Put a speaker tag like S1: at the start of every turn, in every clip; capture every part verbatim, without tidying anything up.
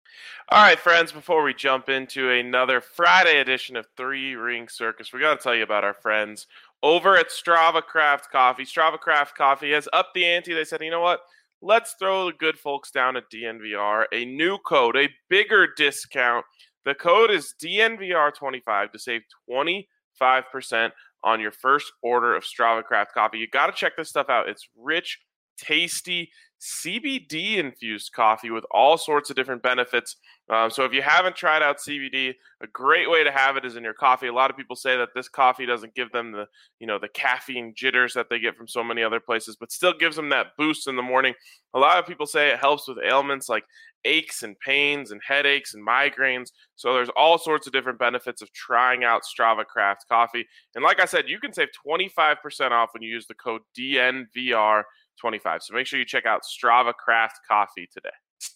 S1: All right, friends, before we jump into another Friday edition of Three Ring Circus, we got to tell you about our friends over at Strava Craft Coffee. Strava Craft Coffee has upped the ante. They said, you know what? Let's throw the good folks down at D N V R a new code, a bigger discount. The code is D N V R twenty-five to save twenty-five percent on your first order of Strava Craft Coffee. You got to check this stuff out. It's rich, tasty, C B D infused coffee with all sorts of different benefits. Um, so if you haven't tried out C B D, a great way to have it is in your coffee. A lot of people say that this coffee doesn't give them the, you know, the caffeine jitters that they get from so many other places, but still gives them that boost in the morning. A lot of people say it helps with ailments like aches and pains and headaches and migraines. So there's all sorts of different benefits of trying out Strava Craft Coffee. And like I said, you can save twenty-five percent off when you use the code D N V R twenty-five. So make sure you check out Strava Craft Coffee today.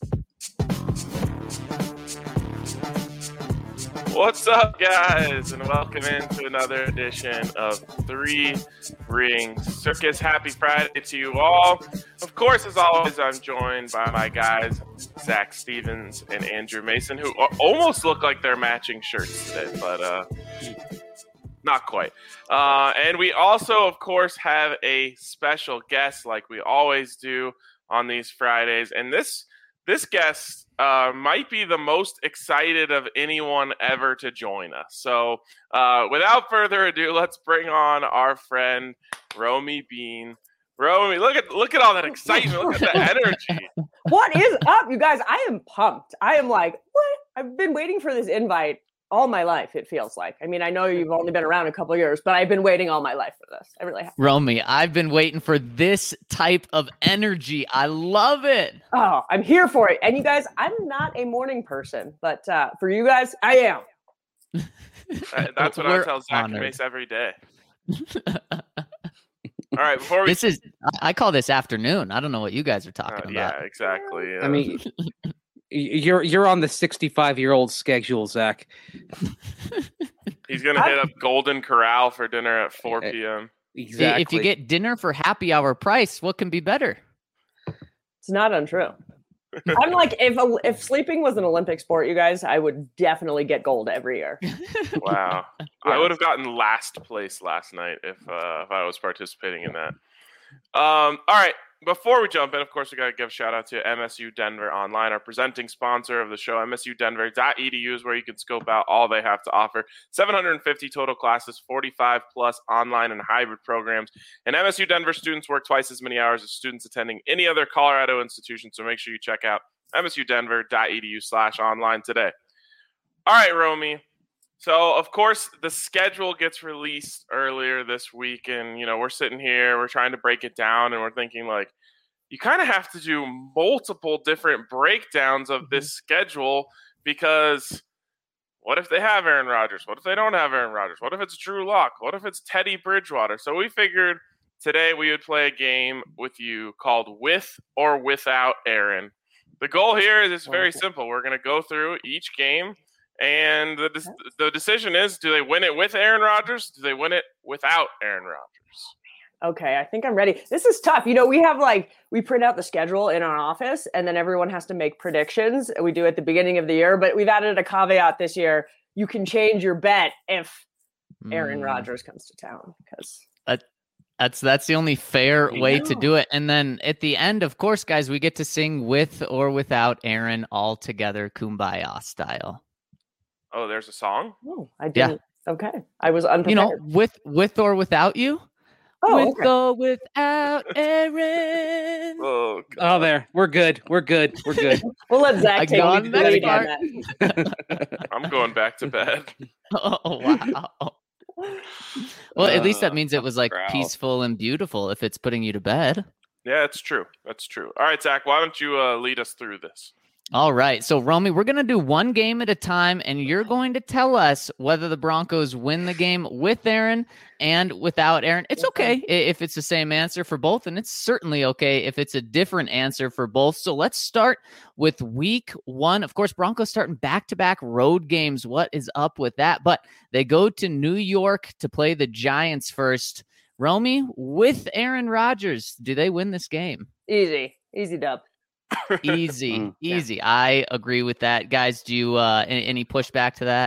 S1: What's up, guys, and welcome into another edition of Three Ring Circus. Happy Friday to you all. Of course, as always, I'm joined by my guys, Zach Stevens and Andrew Mason, who almost look like they're matching shirts today, but uh, not quite. Uh, and we also, of course, have a special guest like we always do on these Fridays. And this this guest uh, might be the most excited of anyone ever to join us. So uh, without further ado, let's bring on our friend, Romy Bean. Romy, look at look at all that excitement. Look at the energy.
S2: What is up, you guys? I am pumped. I am like, what? I've been waiting for this invite all my life, it feels like. I mean, I know you've only been around a couple of years, but I've been waiting all my life for this. I really have.
S3: Romy, I've been waiting for this type of energy. I love it.
S2: Oh, I'm here for it. And you guys, I'm not a morning person, but uh, for you guys, I am.
S1: That's what I tell Zach and Mace every day. All right, before we...
S3: This is, I call this afternoon. I don't know what you guys are talking
S1: uh,
S3: about.
S1: Yeah, exactly. Yeah.
S4: I mean... You're you're on the sixty-five-year-old schedule, Zach.
S1: He's going to hit up Golden Corral for dinner at four p.m.
S4: Exactly.
S3: If you get dinner for happy hour price, what can be better?
S2: It's not untrue. I'm like, if if sleeping was an Olympic sport, you guys, I would definitely get gold every year.
S1: Wow. Yeah. I would have gotten last place last night if uh, if I was participating in that. Um. All right. Before we jump in, of course, we got to give a shout out to M S U Denver Online, our presenting sponsor of the show. M S U Denver dot E D U is where you can scope out all they have to offer. seven hundred fifty total classes, forty-five plus online and hybrid programs. And M S U Denver students work twice as many hours as students attending any other Colorado institution. So make sure you check out M S U Denver dot E D U slash online today. All right, Romy. So, of course, the schedule gets released earlier this week, and, you know, we're sitting here, we're trying to break it down, and we're thinking, like, you kind of have to do multiple different breakdowns of this schedule because what if they have Aaron Rodgers? What if they don't have Aaron Rodgers? What if it's Drew Lock? What if it's Teddy Bridgewater? So we figured today we would play a game with you called With or Without Aaron. The goal here is it's very simple. We're going to go through each game. And the the decision is, do they win it with Aaron Rodgers? Do they win it without Aaron Rodgers?
S2: Okay, I think I'm ready. This is tough. You know, we have like, we print out the schedule in our office and then everyone has to make predictions. We do it at the beginning of the year, but we've added a caveat this year. You can change your bet if Aaron mm. Rodgers comes to town because
S3: that, that's that's the only fair way to do it. And then at the end, of course, guys, we get to sing with or without Aaron all together, Kumbaya style.
S1: Oh, there's a song?
S2: Oh, I didn't. Yeah. Okay. I was unprepared.
S3: You know, with with or without you?
S2: Oh,
S3: with
S2: okay.
S3: or without Aaron.
S1: Oh,
S4: oh, there. We're good. We're good. We're good.
S2: We'll let Zach take
S3: on
S2: the lead on that.
S1: I'm going back to bed.
S3: Oh, wow. Well, at least that means it was like uh, peaceful and beautiful if it's putting you to bed.
S1: Yeah, it's true. That's true. All right, Zach, why don't you uh, lead us through this?
S3: All right. So, Romy, we're going to do one game at a time, and you're going to tell us whether the Broncos win the game with Aaron and without Aaron. It's okay if it's the same answer for both, and it's certainly okay if it's a different answer for both. So let's start with week one. Of course, Broncos starting back-to-back road games. What is up with that? But they go to New York to play the Giants first. Romy, with Aaron Rodgers, do they win this game?
S2: Easy. Easy dub.
S3: Easy,
S4: Mm,
S3: easy. I agree with that, guys. Do you uh, any, any pushback to that?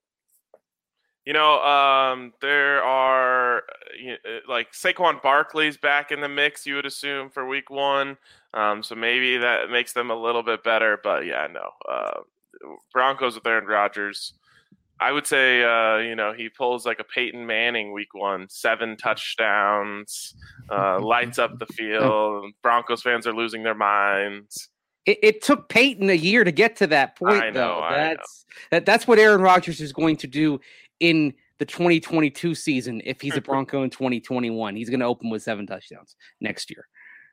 S1: You know, um, there are you know, like Saquon Barkley's back in the mix. You would assume for Week One, um, so maybe that makes them a little bit better. But yeah, no, uh, Broncos with Aaron Rodgers. I would say, uh, you know, he pulls like a Peyton Manning Week One, seven touchdowns, uh, lights up the field. Broncos fans are losing their minds.
S4: It, it took Peyton a year to get to that point,
S1: I know,
S4: though.
S1: I
S4: That's that. That's what Aaron Rodgers is going to do in the twenty twenty-two season. If he's a Bronco in twenty twenty-one, he's going to open with seven touchdowns next year.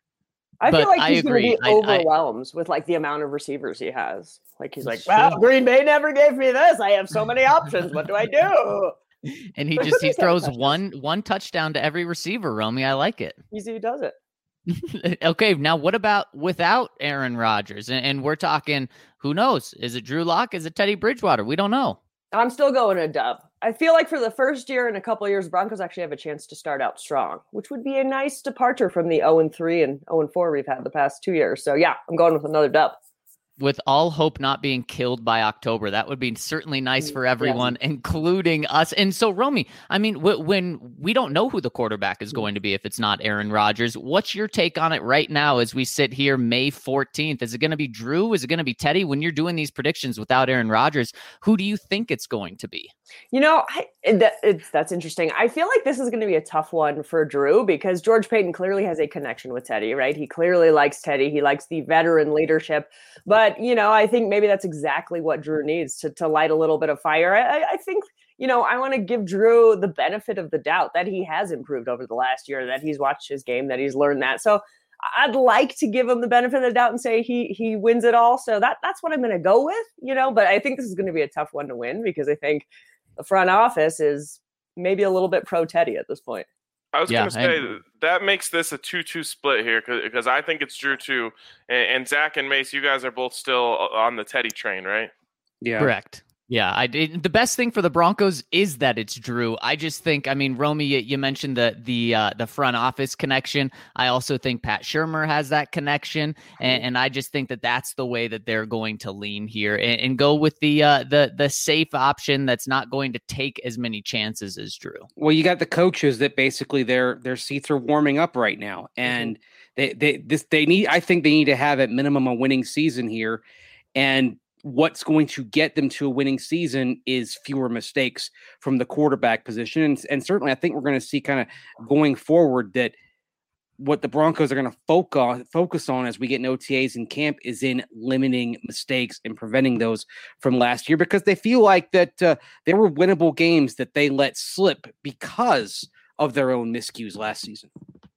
S2: I
S3: But
S2: feel like
S3: I
S2: he's going to
S3: agree.
S2: be
S3: I- I-
S2: overwhelmed with like the amount of receivers he has. Like he's like,
S3: Sure.
S2: well, Green Bay never gave me this. I have so many options. What do I do?
S3: And he just he throws one one touchdown to every receiver, Romy. I like it.
S2: Easy does it.
S3: Okay, now what about without Aaron Rodgers? And, and we're talking, who knows? Is it Drew Lock? Is it Teddy Bridgewater? We don't know.
S2: I'm still going a dub. I feel like for the first year in a couple of years, Broncos actually have a chance to start out strong, which would be a nice departure from the oh and three and oh and four we've had the past two years. So yeah, I'm going with another dub.
S3: With all hope not being killed by October, that would be certainly nice for everyone, yes. including us. And so, Romy, I mean, w- when we don't know who the quarterback is going to be if it's not Aaron Rodgers, what's your take on it right now as we sit here May fourteenth? Is it going to be Drew? Is it going to be Teddy? When you're doing these predictions without Aaron Rodgers, who do you think it's going to be?
S2: You know, I, that, it's, that's interesting. I feel like this is going to be a tough one for Drew because George Payton clearly has a connection with Teddy, right? He clearly likes Teddy. He likes the veteran leadership. But, you know, I think maybe that's exactly what Drew needs to, to light a little bit of fire. I, I think, you know, I want to give Drew the benefit of the doubt that he has improved over the last year, that he's watched his game, that he's learned that. So I'd like to give him the benefit of the doubt and say he he wins it all. So that that's what I'm going to go with, you know, but I think this is going to be a tough one to win because I think the front office is maybe a little bit pro Teddy at this point.
S1: I was
S3: Yeah,
S1: going to say that makes this a two two split here because I think it's Drew too. And, and Zach and Mace, you guys are both still on the Teddy train, right?
S4: Yeah.
S3: Correct. Yeah, I did. The best thing for the Broncos is that it's Drew. I just think, I mean, Romy, you, you mentioned the the uh, the front office connection. I also think Pat Shurmur has that connection, and, and I just think that that's the way that they're going to lean here and, and go with the uh, the the safe option that's not going to take as many chances as Drew.
S4: Well, you got the coaches that basically their their seats are warming up right now, and mm-hmm. they they this they need. I think they need to have at minimum a winning season here, and what's going to get them to a winning season is fewer mistakes from the quarterback position. And, and certainly I think we're going to see kind of going forward that what the Broncos are going to focus on, focus on as we get in O T As in camp is in limiting mistakes and preventing those from last year, because they feel like that uh, there were winnable games that they let slip because of their own miscues last season.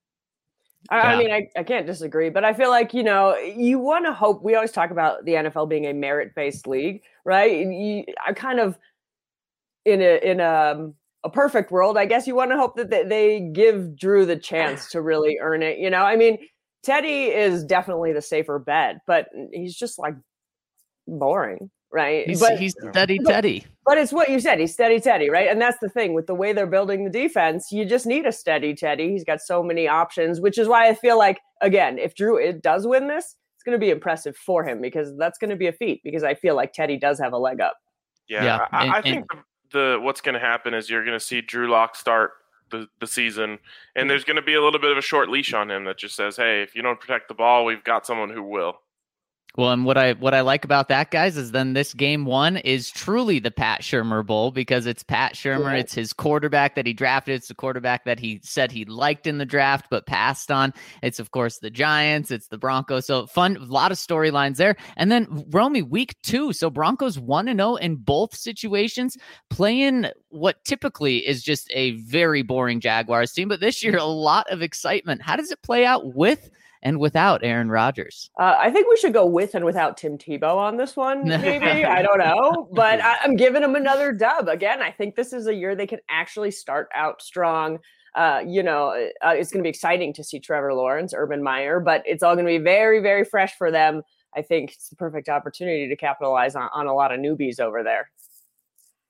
S2: I mean, I, I can't disagree, but I feel like, you know, you want to hope. We always talk about the N F L being a merit-based league, right? You, I kind of, in a in a, a perfect world, I guess you want to hope that they, they give Drew the chance to really earn it. You know, I mean, Teddy is definitely the safer bet, but he's just like boring, right?
S3: He's,
S2: but,
S3: he's steady
S2: but,
S3: Teddy.
S2: But it's what you said. He's steady Teddy, right? And that's the thing with the way they're building the defense. You just need a steady Teddy. He's got so many options, which is why I feel like, again, if Drew it does win this, it's going to be impressive for him because that's going to be a feat because I feel like Teddy does have a leg up.
S1: Yeah,
S3: yeah
S1: I,
S3: and,
S1: I think and, the, the what's going to happen is you're going to see Drew Lock start the, the season, and there's going to be a little bit of a short leash on him that just says, hey, if you don't protect the ball, we've got someone who will.
S3: Well, and what I what I like about that, guys, is then this game one is truly the Pat Shurmur Bowl because it's Pat Shurmur. Yeah. It's his quarterback that he drafted. It's the quarterback that he said he liked in the draft but passed on. It's, of course, the Giants. It's the Broncos. So fun, a lot of storylines there. And then, Romy, week two. So Broncos one and oh in both situations, playing what typically is just a very boring Jaguars team. But this year, a lot of excitement. How does it play out with and without Aaron Rodgers?
S2: Uh, I think we should go with and without Tim Tebow on this one, maybe. I don't know. But I, I'm giving him another dub. Again, I think this is a year they can actually start out strong. Uh, you know, uh, it's going to be exciting to see Trevor Lawrence, Urban Meyer, but it's all going to be very, very fresh for them. I think it's the perfect opportunity to capitalize on, on a lot of newbies over there.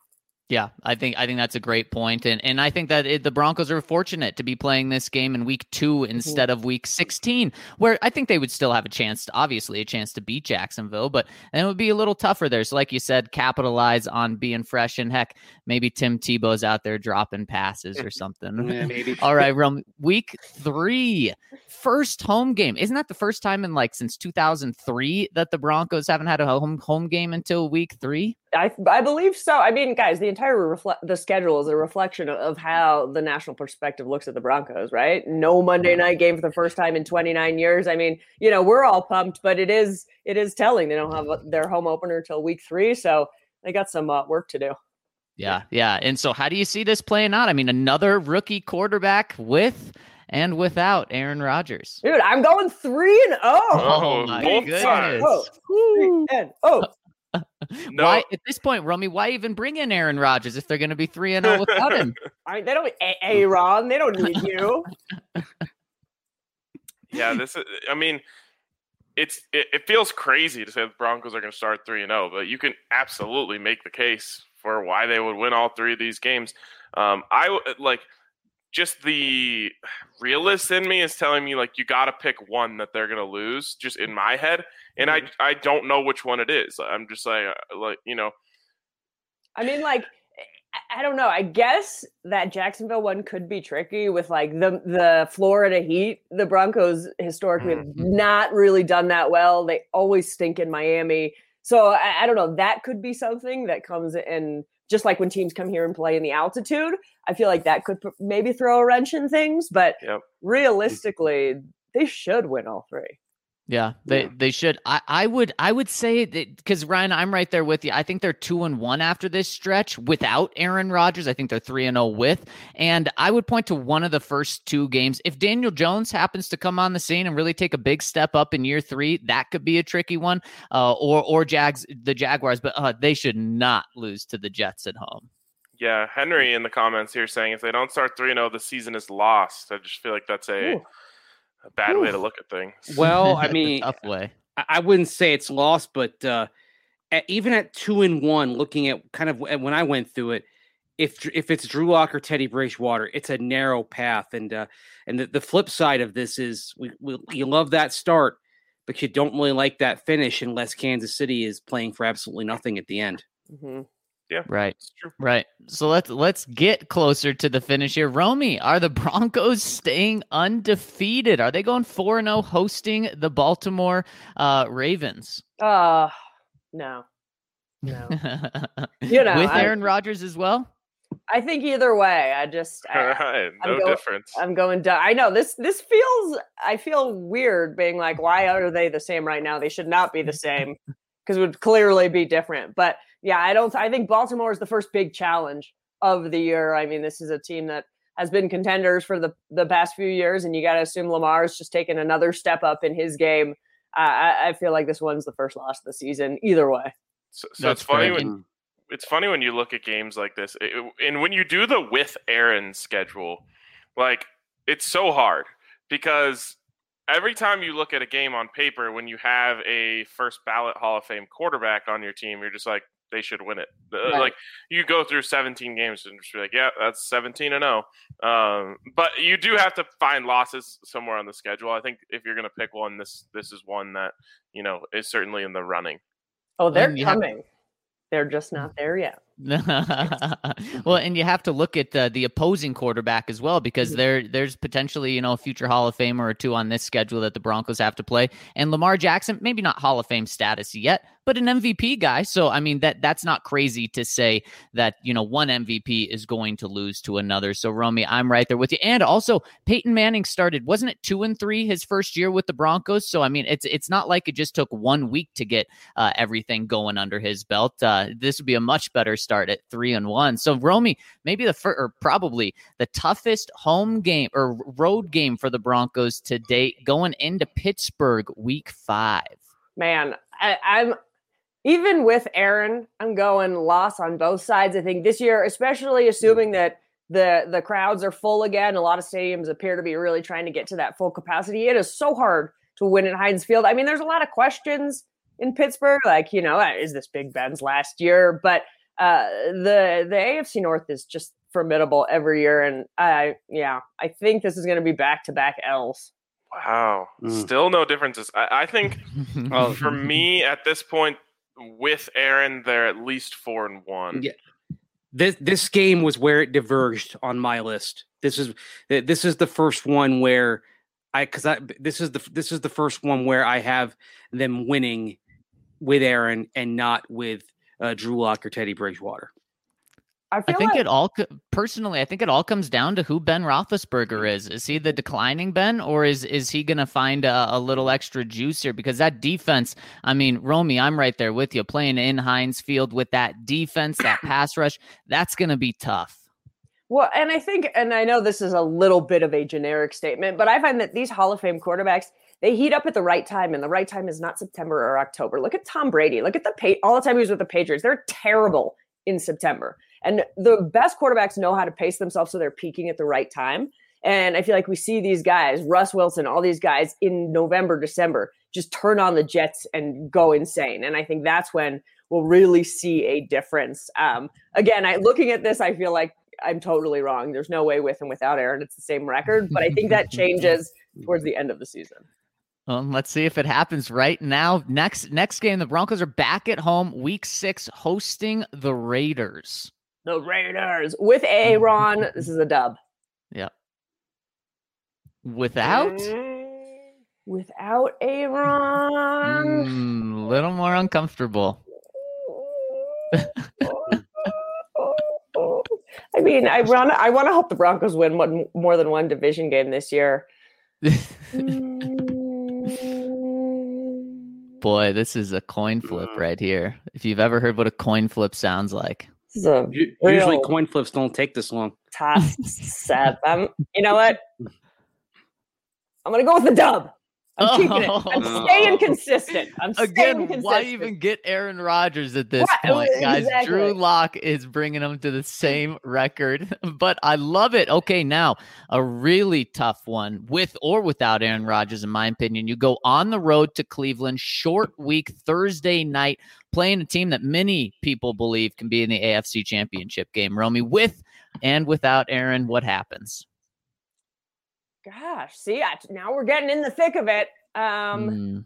S3: Yeah, I think I think that's a great point, and and I think that it, the Broncos are fortunate to be playing this game in week two instead mm-hmm. of week sixteen, where I think they would still have a chance, to, obviously a chance to beat Jacksonville, but then it would be a little tougher there. So, like you said, capitalize on being fresh, and heck, maybe Tim Tebow's out there dropping passes or something.
S4: Yeah, maybe.
S3: All right, Rome, week three, first home game. Isn't that the first time in like since two thousand three that the Broncos haven't had a home home game until week three?
S2: I I believe so. I mean, guys, the entire refle- the schedule is a reflection of, of how the national perspective looks at the Broncos, right? No Monday night game for the first time in twenty-nine years. I mean, you know, we're all pumped, but it is it is telling they don't have a, their home opener till week three, so they got some uh, work to do.
S3: Yeah, yeah. And so, how do you see this playing out? I mean, another rookie quarterback with and without Aaron Rodgers.
S2: Dude, I'm going three and oh.
S3: Oh my goodness!
S2: Oh, three and oh.
S3: No. Why at this point, Romy? Why even bring in Aaron Rodgers if they're going to be three and zero without him?
S2: I mean, they don't. Aaron, they don't need you.
S1: Yeah, this is. I mean, it's it, it feels crazy to say the Broncos are going to start three and zero, but you can absolutely make the case for why they would win all three of these games. Um, I like just the realist in me is telling me like you got to pick one that they're going to lose. Just in my head. And I, I don't know which one it is. I'm just like, like, you know.
S2: I mean, like, I don't know. I guess that Jacksonville one could be tricky with like the the Florida Heat. The Broncos historically have not really done that well. They always stink in Miami. So I, I don't know. That could be something that comes in. Just like when teams come here and play in the altitude, I feel like that could maybe throw a wrench in things. But yep. realistically, they should win all three.
S3: Yeah, they, yeah. they should. I, I would I would say that because Ryan, I'm right there with you. I think they're two and one after this stretch without Aaron Rodgers. I think they're three and zero with. And I would point to one of the first two games. If Daniel Jones happens to come on the scene and really take a big step up in year three, that could be a tricky one. Uh, or or Jags the Jaguars, but uh, they should not lose to the Jets at home.
S1: Yeah, Henry in the comments here saying if they don't start three and zero, the season is lost. I just feel like that's a. Ooh. A bad Ooh. way to look at things.
S4: Well, I mean,
S3: tough way.
S4: I wouldn't say it's lost, but uh, at, even at two and one, looking at kind of when I went through it, if if it's Drew Lock or Teddy Bridgewater, it's a narrow path. And uh, and the, the flip side of this is we, we you love that start, but you don't really like that finish unless Kansas City is playing for absolutely nothing at the end.
S2: Mm-hmm.
S1: Yeah,
S3: right, right. So let's let's get closer to the finish here. Romy, are the Broncos staying undefeated? Are they going four and zero, hosting the Baltimore uh, Ravens?
S2: Uh no, no. you know,
S3: with
S2: I,
S3: Aaron Rodgers as well.
S2: I think either way. I just I,
S1: right, no
S2: I'm going,
S1: difference.
S2: I'm going to. I know this. This feels. I feel weird being like, why are they the same right now? They should not be the same because it would clearly be different, but. Yeah, I don't. I think Baltimore is the first big challenge of the year. I mean, this is a team that has been contenders for the, the past few years, and you got to assume Lamar is just taking another step up in his game. Uh, I, I feel like this one's the first loss of the season, either way.
S1: So, so it's funny great. when it's funny when you look at games like this, it, and when you do the with Aaron schedule, like it's so hard because. Every time you look at a game on paper, when you have a first ballot Hall of Fame quarterback on your team, you're just like, they should win it. Right. Like you go through seventeen games and just be like, yeah, that's seventeen and oh. Um, but you do have to find losses somewhere on the schedule. I think if you're going to pick one, this this is one that, you know, is certainly in the running.
S2: Oh, they're coming. Have- They're just not there yet.
S3: Well, and you have to look at uh, the opposing quarterback as well, because there there's potentially, you know, a future Hall of Famer or two on this schedule that the Broncos have to play. And Lamar Jackson, maybe not Hall of Fame status yet, but an M V P guy. So, I mean, that that's not crazy to say that, you know, one M V P is going to lose to another. So, Romy, I'm right there with you. And also, Peyton Manning started, wasn't it two and three his first year with the Broncos? So, I mean, it's it's not like it just took one week to get uh, everything going under his belt. Uh, this would be a much better start at three and one. So, Romy, maybe the first, or probably the toughest home game or road game for the Broncos to date, going into Pittsburgh week five.
S2: Man, I, I'm even with Aaron, I'm going loss on both sides. I think this year, especially assuming that the the crowds are full again, a lot of stadiums appear to be really trying to get to that full capacity. It is so hard to win at Heinz Field. I mean, there's a lot of questions in Pittsburgh, like, you know, is this Big Ben's last year? But uh, the the A F C North is just formidable every year, and I yeah, I think this is going to be back to back L's.
S1: Wow, mm. Still no differences. I, I think well, for me at this point with Aaron, they're at least four and one.
S4: Yeah. This this game was where it diverged on my list. This is this is the first one where I because I this is the this is the first one where I have them winning with Aaron and not with uh, Drew Lock or Teddy Bridgewater.
S2: I,
S3: I think like- it all personally. I think it all comes down to who Ben Roethlisberger is. Is he the declining Ben, or is is he going to find a, a little extra juice here? Because that defense. I mean, Romy, I'm right there with you. Playing in Heinz Field with that defense, that pass rush, that's going to be tough.
S2: Well, and I think, and I know this is a little bit of a generic statement, but I find that these Hall of Fame quarterbacks, they heat up at the right time, and the right time is not September or October. Look at Tom Brady. Look at the pa- all the time he was with the Patriots. They're terrible in September. And the best quarterbacks know how to pace themselves so they're peaking at the right time. And I feel like we see these guys, Russ Wilson, all these guys in November, December, just turn on the jets and go insane. And I think that's when we'll really see a difference. Um, again, I looking at this, I feel like I'm totally wrong. There's no way with and without Aaron, it's the same record. But I think that changes towards the end of the season.
S3: Well, let's see if it happens right now. Next next game, the Broncos are back at home, week six, hosting the Raiders.
S2: The Raiders with Aaron. This is a dub.
S3: Yeah. Without?
S2: Without Aaron. A
S3: mm, little more uncomfortable.
S2: I mean, I want I want to hope the Broncos win one, more than one division game this year.
S3: Boy, this is a coin flip right here. If you've ever heard what a coin flip sounds like.
S2: This is a
S4: Usually coin flips don't take this long.
S2: Toss seven. You know what? I'm going to go with the dub. I'm oh, keeping it. I'm staying consistent. I'm staying
S3: Again,
S2: consistent.
S3: Why even get Aaron Rodgers at this
S2: what?
S3: point, guys?
S2: Exactly.
S3: Drew Lock is bringing them to the same record, but I love it. Okay, now a really tough one with or without Aaron Rodgers, in my opinion. You go on the road to Cleveland, short week, Thursday night, playing a team that many people believe can be in the A F C Championship game. Romy, with and without Aaron, what happens?
S2: Gosh, see, I, now we're getting in the thick of it. Um,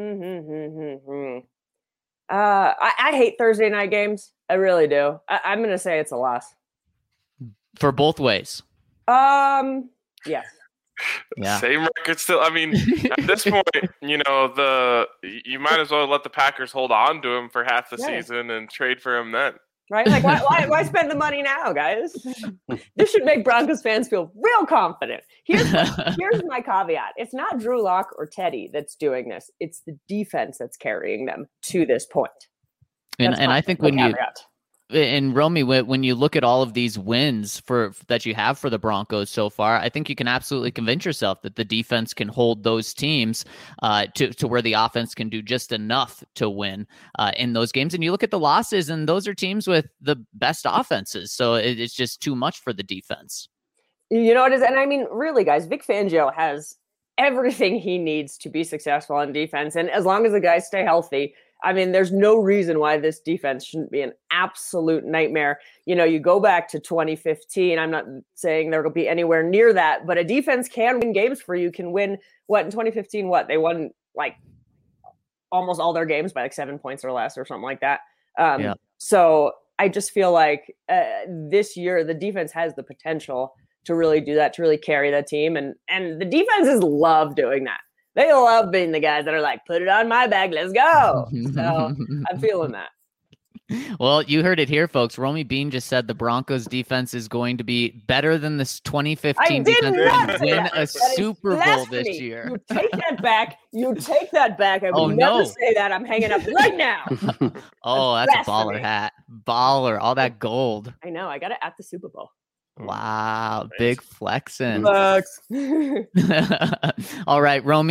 S2: mm. uh, I, I hate Thursday night games. I really do. I, I'm going to say it's a loss.
S3: For both ways.
S2: Um, yes.
S1: Yeah. Same record still. I mean, at this point, you know, the you might as well let the Packers hold on to him for half the yeah. season and trade for him then.
S2: Right? Like, why, why, why spend the money now, guys? This should make Broncos fans feel real confident. Here's my, here's my caveat. It's not Drew Lock or Teddy that's doing this. It's the defense that's carrying them to this point.
S3: And, and I think when caveat. you and Romy, when you look at all of these wins for that you have for the Broncos so far, I think you can absolutely convince yourself that the defense can hold those teams uh, to, to where the offense can do just enough to win uh, in those games. And you look at the losses, and those are teams with the best offenses. So it, it's just too much for the defense.
S2: You know what it is? And I mean, really, guys, Vic Fangio has everything he needs to be successful on defense. And as long as the guys stay healthy, I mean, there's no reason why this defense shouldn't be an absolute nightmare. You know, you go back to twenty fifteen. I'm not saying there will be anywhere near that, but a defense can win games for you, can win what in twenty fifteen, what they won like almost all their games by like seven points or less or something like that. Um, yeah. So I just feel like uh, this year, the defense has the potential to really do that, to really carry that team. And, and the defenses love doing that. They love being the guys that are like, put it on my bag, let's go. So I'm feeling that.
S3: Well, you heard it here, folks. Romy Bean just said the Broncos defense is going to be better than this twenty fifteen defense and win a Super Bowl this year.
S2: You take that back. You take that back. I would
S3: oh,
S2: never
S3: no.
S2: say that. I'm hanging up right now.
S3: Oh, that's, that's a baller hat. Baller. All that gold.
S2: I know. I got it at the Super Bowl.
S3: Wow, big flexing.
S2: Flex.
S3: All right, Romy,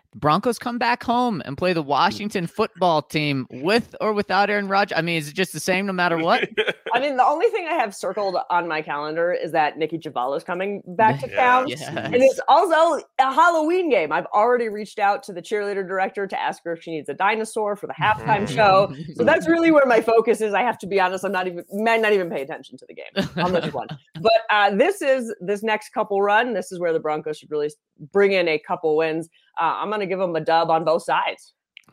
S3: The Broncos come back home and play the Washington football team with or without Aaron Rodgers. I mean, is it just the same no matter what?
S2: I mean, the only thing I have circled on my calendar is that Nikki Jhabvala is coming back to
S1: Yes.
S2: town.
S3: Yes.
S2: And it's also a Halloween game. I've already reached out to the cheerleader director to ask her if she needs a dinosaur for the halftime show. So that's really where my focus is. I have to be honest. I'm not even, might not even pay attention to the game on this one. But uh, this is this next couple run. This is where the Broncos should really bring in a couple wins. Uh, I'm going to give them a dub on both sides.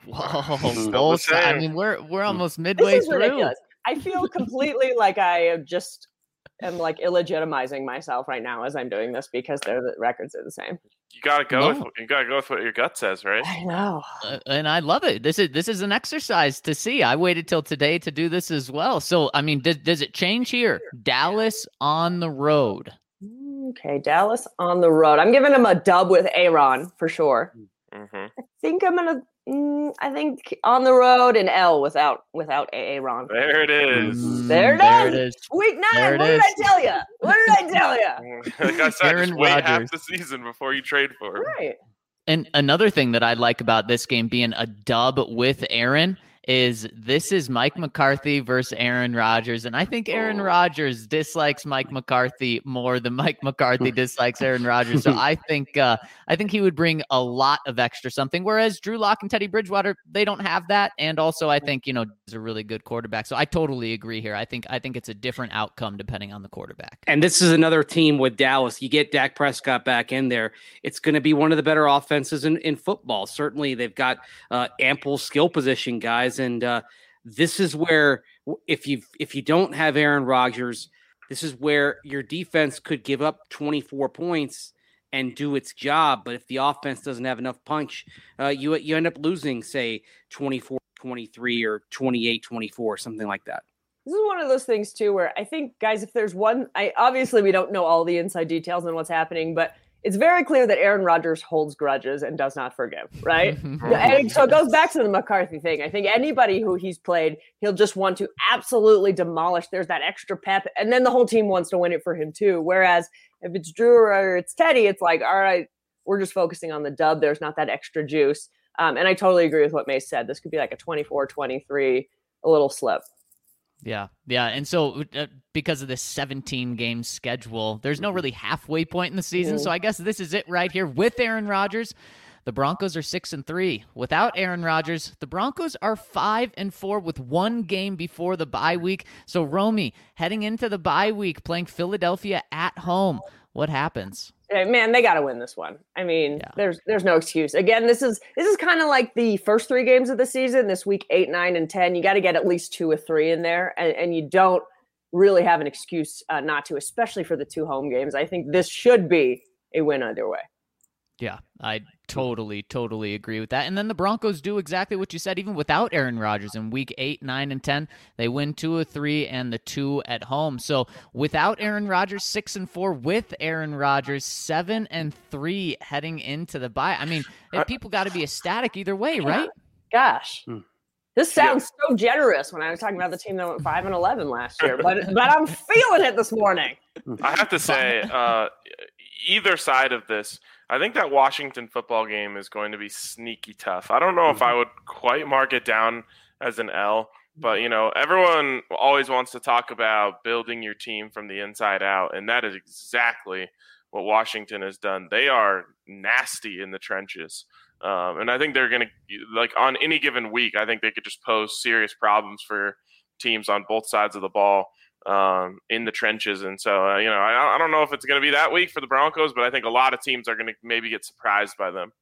S3: Whoa, both sides. I mean, we're we're almost midway
S2: This is
S3: through.
S2: ridiculous. I feel completely like I just am like illegitimizing myself right now as I'm doing this because their the records are the same.
S1: You gotta go.
S3: No.
S1: With, you gotta go with what your gut says, right?
S2: I know.
S3: Uh, and I love it. This is this is an exercise to see. I waited till today to do this as well. So, I mean, does does it change here? Dallas on the road.
S2: Okay, Dallas on the road. I'm giving him a dub with Aaron for sure.
S1: Mm-hmm.
S2: I think I'm gonna. Mm, I think on the road and L without without Aaron.
S1: There it is.
S3: Mm,
S2: There it
S3: there
S2: is.
S3: it is.
S2: Week nine.
S3: There it
S2: What did
S3: is.
S2: I tell you? What did I tell you?
S1: Like I said,
S3: Aaron
S1: just wait half
S3: Rodgers.
S1: the season before you trade for him.
S2: Right.
S3: And another thing that I like about this game being a dub with Aaron is this is Mike McCarthy versus Aaron Rodgers. And I think Aaron Rodgers dislikes Mike McCarthy more than Mike McCarthy dislikes Aaron Rodgers. So I think uh, I think he would bring a lot of extra something. Whereas Drew Lock and Teddy Bridgewater, they don't have that. And also I think, you know, he's a really good quarterback. So I totally agree here. I think I think it's a different outcome depending on the quarterback.
S4: And this is another team with Dallas. You get Dak Prescott back in there. It's going to be one of the better offenses in, in football. Certainly they've got uh, ample skill position guys. And uh, this is where if you if you don't have Aaron Rodgers, this is where your defense could give up twenty-four points and do its job. But if the offense doesn't have enough punch, uh, you you end up losing, say, twenty-four twenty-three or twenty-eight twenty-four, something like that.
S2: This is one of those things too where I think, guys, if there's one, I obviously we don't know all the inside details and what's happening, but it's very clear that Aaron Rodgers holds grudges and does not forgive, right? And so it goes back to the McCarthy thing. I think anybody who he's played, he'll just want to absolutely demolish. There's that extra pep, and then the whole team wants to win it for him too. Whereas if it's Drew or it's Teddy, it's like, all right, we're just focusing on the dub. There's not that extra juice. Um, and I totally agree with what Mace said. This could be like a twenty-four twenty-three, a little slip.
S3: Yeah, yeah. And so uh, because of this seventeen game schedule, there's no really halfway point in the season. So I guess this is it right here with Aaron Rodgers. The Broncos are six and three. Without Aaron Rodgers, the Broncos are five and four with one game before the bye week. So Romy, heading into the bye week, playing Philadelphia at home, what happens?
S2: Hey, man, they got to win this one. I mean,
S3: Yeah.
S2: there's there's no excuse. Again, this is this is kind of like the first three games of the season. This week eight, nine, and ten, you got to get at least two or three in there, and, and you don't really have an excuse uh, not to, especially for the two home games. I think this should be a win either way.
S3: Yeah, I totally, totally agree with that. And then the Broncos do exactly what you said, even without Aaron Rodgers in week eight, nine, and ten. They win two of three and the two at home. So without Aaron Rodgers, six and four. With Aaron Rodgers, seven and three heading into the bye. I mean, people got to be ecstatic either way, right?
S2: Gosh.
S4: Hmm.
S2: This sounds so generous when I was talking about the team that went five and eleven last year, but but I'm feeling it this morning.
S1: I have to say, uh, either side of this, I think that Washington football game is going to be sneaky tough. I don't know if I would quite mark it down as an L, but you know, everyone always wants to talk about building your team from the inside out, and that is exactly what Washington has done. They are nasty in the trenches. Um, and I think they're going to, like, on any given week, I think they could just pose serious problems for teams on both sides of the ball um, in the trenches. And so, uh, you know, I, I don't know if it's going to be that week for the Broncos, but I think a lot of teams are going to maybe get surprised by them.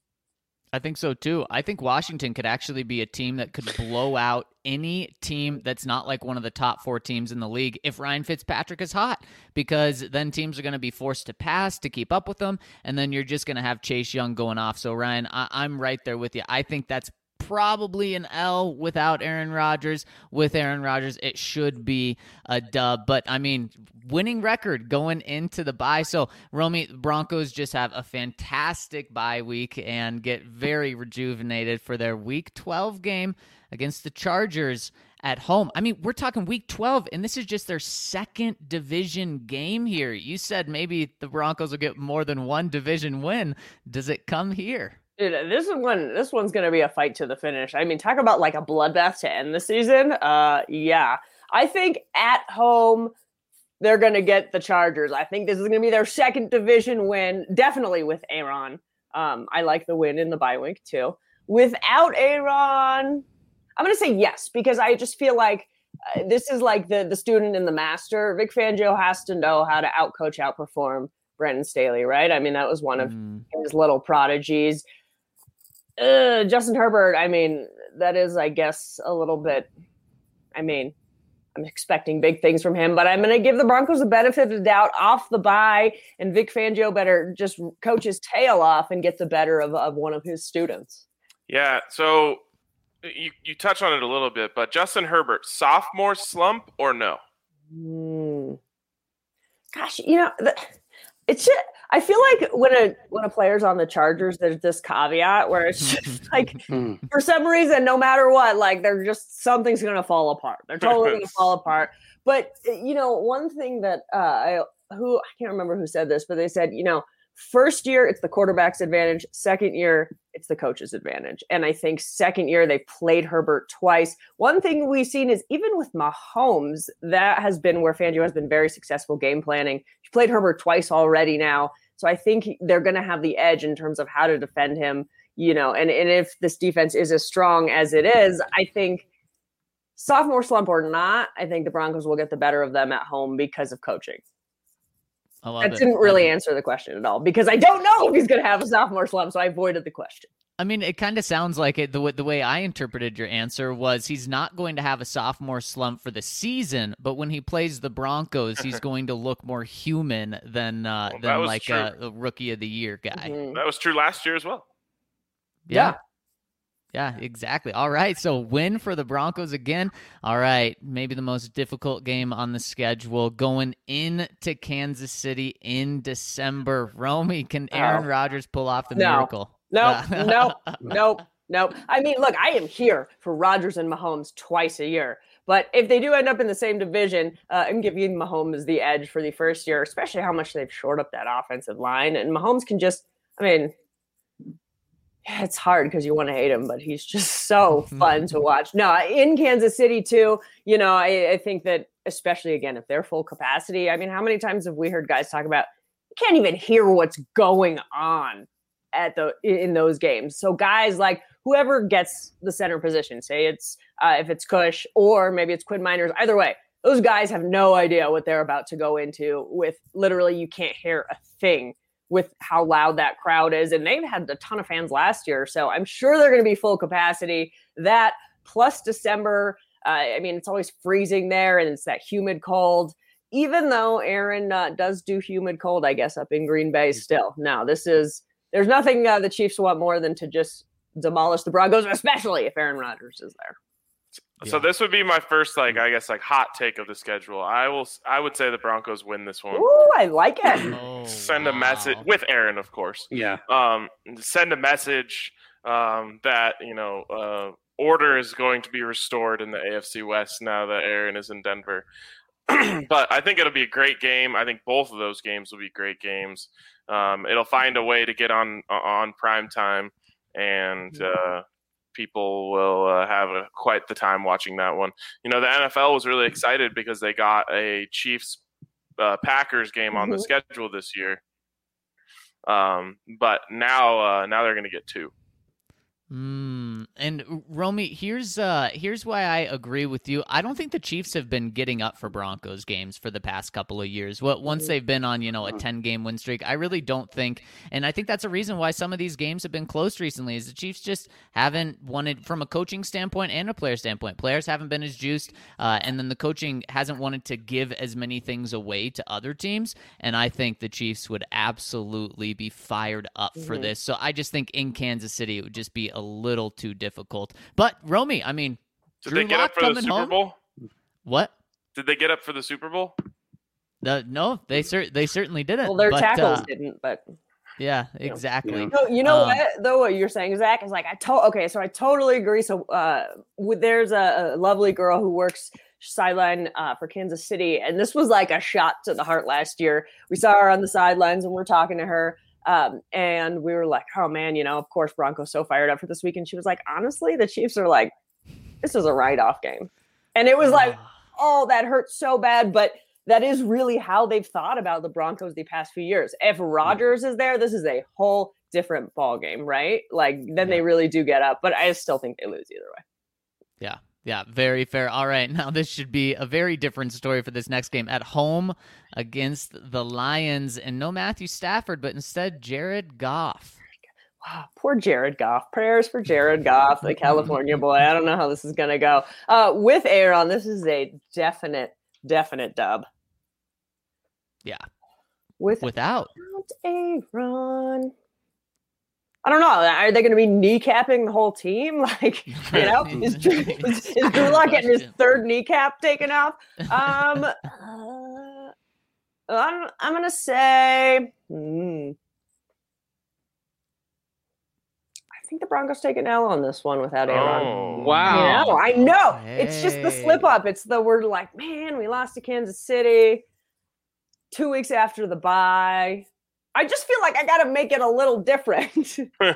S3: I think so too. I think Washington could actually be a team that could blow out any team that's not like one of the top four teams in the league if Ryan Fitzpatrick is hot, because then teams are going to be forced to pass to keep up with them, and then you're just going to have Chase Young going off. So, Ryan, I- I'm right there with you. I think that's probably an L without Aaron Rodgers. With Aaron Rodgers, it should be a dub. But, I mean, winning record going into the bye. So, Romy, Broncos just have a fantastic bye week and get very rejuvenated for their Week twelve game against the Chargers at home. I mean, we're talking Week twelve, and this is just their second division game here. You said maybe the Broncos will get more than one division win. Does it come here?
S2: Dude, this is one. This one's going to be a fight to the finish. I mean, talk about like a bloodbath to end the season. Uh, yeah, I think at home they're going to get the Chargers. I think this is going to be their second division win, definitely with Aaron. Um, I like the win in the bye week too. Without Aaron, I'm going to say yes because I just feel like uh, this is like the the student and the master. Vic Fangio has to know how to outcoach, outperform Brandon Staley, right? I mean, that was one of mm. his little prodigies. Uh, Justin Herbert, I mean, that is, I guess, a little bit, I mean, I'm expecting big things from him, but I'm going to give the Broncos the benefit of the doubt off the bye, and Vic Fangio better just coach his tail off and get the better of, of one of his students.
S1: Yeah, so you, you touch on it a little bit, but Justin Herbert, sophomore slump or no?
S2: Mm. Gosh, you know, the, it's just, I feel like when a when a player's on the Chargers, there's this caveat where it's just like, for some reason, no matter what, like they're just something's gonna fall apart. They're totally gonna fall apart. But you know, one thing that uh, I who I can't remember who said this, but they said, you know, first year it's the quarterback's advantage. Second year it's the coach's advantage. And I think second year they played Herbert twice. One thing we've seen is even with Mahomes, that has been where Fangio has been very successful game planning. He played Herbert twice already now. So I think they're going to have the edge in terms of how to defend him, you know, and, and if this defense is as strong as it is, I think sophomore slump or not, I think the Broncos will get the better of them at home because of coaching.
S3: I love
S2: that
S3: it.
S2: didn't really answer the question at all because I don't know if he's going to have a sophomore slump, so I avoided the question.
S3: I mean, it kind of sounds like it. The way, the way I interpreted your answer was he's not going to have a sophomore slump for the season, but when he plays the Broncos, he's going to look more human than uh, well, than like a, a rookie of the year guy.
S1: Mm-hmm. That was true last year as well.
S3: Yeah. yeah. Yeah, exactly. All right, so win for the Broncos again. All right, maybe the most difficult game on the schedule going into Kansas City in December. Romy, can Aaron oh. Rodgers pull off the
S2: no.
S3: miracle?
S2: No, no, no, no. I mean, look, I am here for Rodgers and Mahomes twice a year. But if they do end up in the same division, uh, I'm giving Mahomes the edge for the first year, especially how much they've shored up that offensive line. And Mahomes can just, I mean, yeah, it's hard because you want to hate him, but he's just so fun to watch. No, in Kansas City, too, you know, I, I think that especially, again, if they're full capacity, I mean, how many times have we heard guys talk about, you can't even hear what's going on at the in those games. So guys like whoever gets the center position, say it's uh, if it's Cush or maybe it's Quinn Miners, either way, those guys have no idea what they're about to go into with literally you can't hear a thing with how loud that crowd is. And they've had a ton of fans last year. So I'm sure they're going to be full capacity. That plus December, uh, I mean, it's always freezing there and it's that humid cold. Even though Aaron uh, does do humid cold, I guess, up in Green Bay still. No, this is, there's nothing uh, the Chiefs want more than to just demolish the Broncos, especially if Aaron Rodgers is there.
S1: So yeah. This would be my first, like, I guess, like hot take of the schedule. I will, I would say the Broncos win this one.
S2: Ooh, I like it.
S3: Oh,
S1: send
S3: wow.
S1: a message with Aaron, of course.
S4: Yeah.
S1: Um, send a message um, that you know uh, order is going to be restored in the A F C West now that Aaron is in Denver. But I think it'll be a great game. I think both of those games will be great games. Um, it'll find a way to get on on prime time, and uh, people will uh, have a, quite the time watching that one. You know, the N F L was really excited because they got a Chiefs uh, Packers game on the schedule this year. Um, but now, uh, now they're going to get two.
S3: Mm, and Romy, here's uh, here's why I agree with you. I don't think the Chiefs have been getting up for Broncos games for the past couple of years. What once they've been on, you know, a ten game win streak, I really don't think, and I think that's a reason why some of these games have been close recently. Is the Chiefs just haven't wanted, from a coaching standpoint and a player standpoint, players haven't been as juiced, uh, and then the coaching hasn't wanted to give as many things away to other teams. And I think the Chiefs would absolutely be fired up mm-hmm. for this. So I just think in Kansas City it would just be a A little too difficult. But Romy, I mean,
S1: did
S3: Drew
S1: they get
S3: Lock
S1: up for the Super
S3: home?
S1: Bowl?
S3: What?
S1: Did they get up for the Super Bowl?
S3: Uh, no, they cer- they certainly didn't.
S2: Well, their
S3: but,
S2: tackles
S3: uh,
S2: didn't, but
S3: yeah, exactly.
S2: You know, you know
S3: um,
S2: what? Though what you're saying, Zach, is like I told. Okay, so I totally agree. So, uh, with, there's a, a lovely girl who works sideline uh, for Kansas City, and this was like a shot to the heart last year. We saw her on the sidelines, and we're talking to her. Um, and we were like, oh man, you know, of course Broncos so fired up for this week. And she was like, honestly, the Chiefs are like, this is a write-off game. And it was like, oh, that hurts so bad. But that is really how they've thought about the Broncos the past few years. If Rodgers is there, this is a whole different ball game, right? Like then yeah. they really do get up, but I still think they lose either way.
S3: Yeah. Yeah, very fair. All right, now this should be a very different story for this next game at home against the Lions, and no Matthew Stafford, but instead Jared Goff.
S2: Wow, poor Jared Goff. Prayers for Jared Goff, the California boy. I don't know how this is going to go. Uh, with Aaron, this is a definite, definite dub.
S3: Yeah.
S2: With,
S3: Without.
S2: Without Aaron. I don't know. Are they going to be kneecapping the whole team? Like, you know, is, is, is Drew Lock getting his third kneecap taken off? Um, uh, I'm, I'm going to say, hmm, I think the Broncos take an L on this one without Aaron.
S1: Oh,
S4: wow.
S2: You know, I know.
S3: Hey.
S2: It's just the slip up. It's the word like, man, we lost to Kansas City two weeks after the bye. I just feel like I got to make it a little different.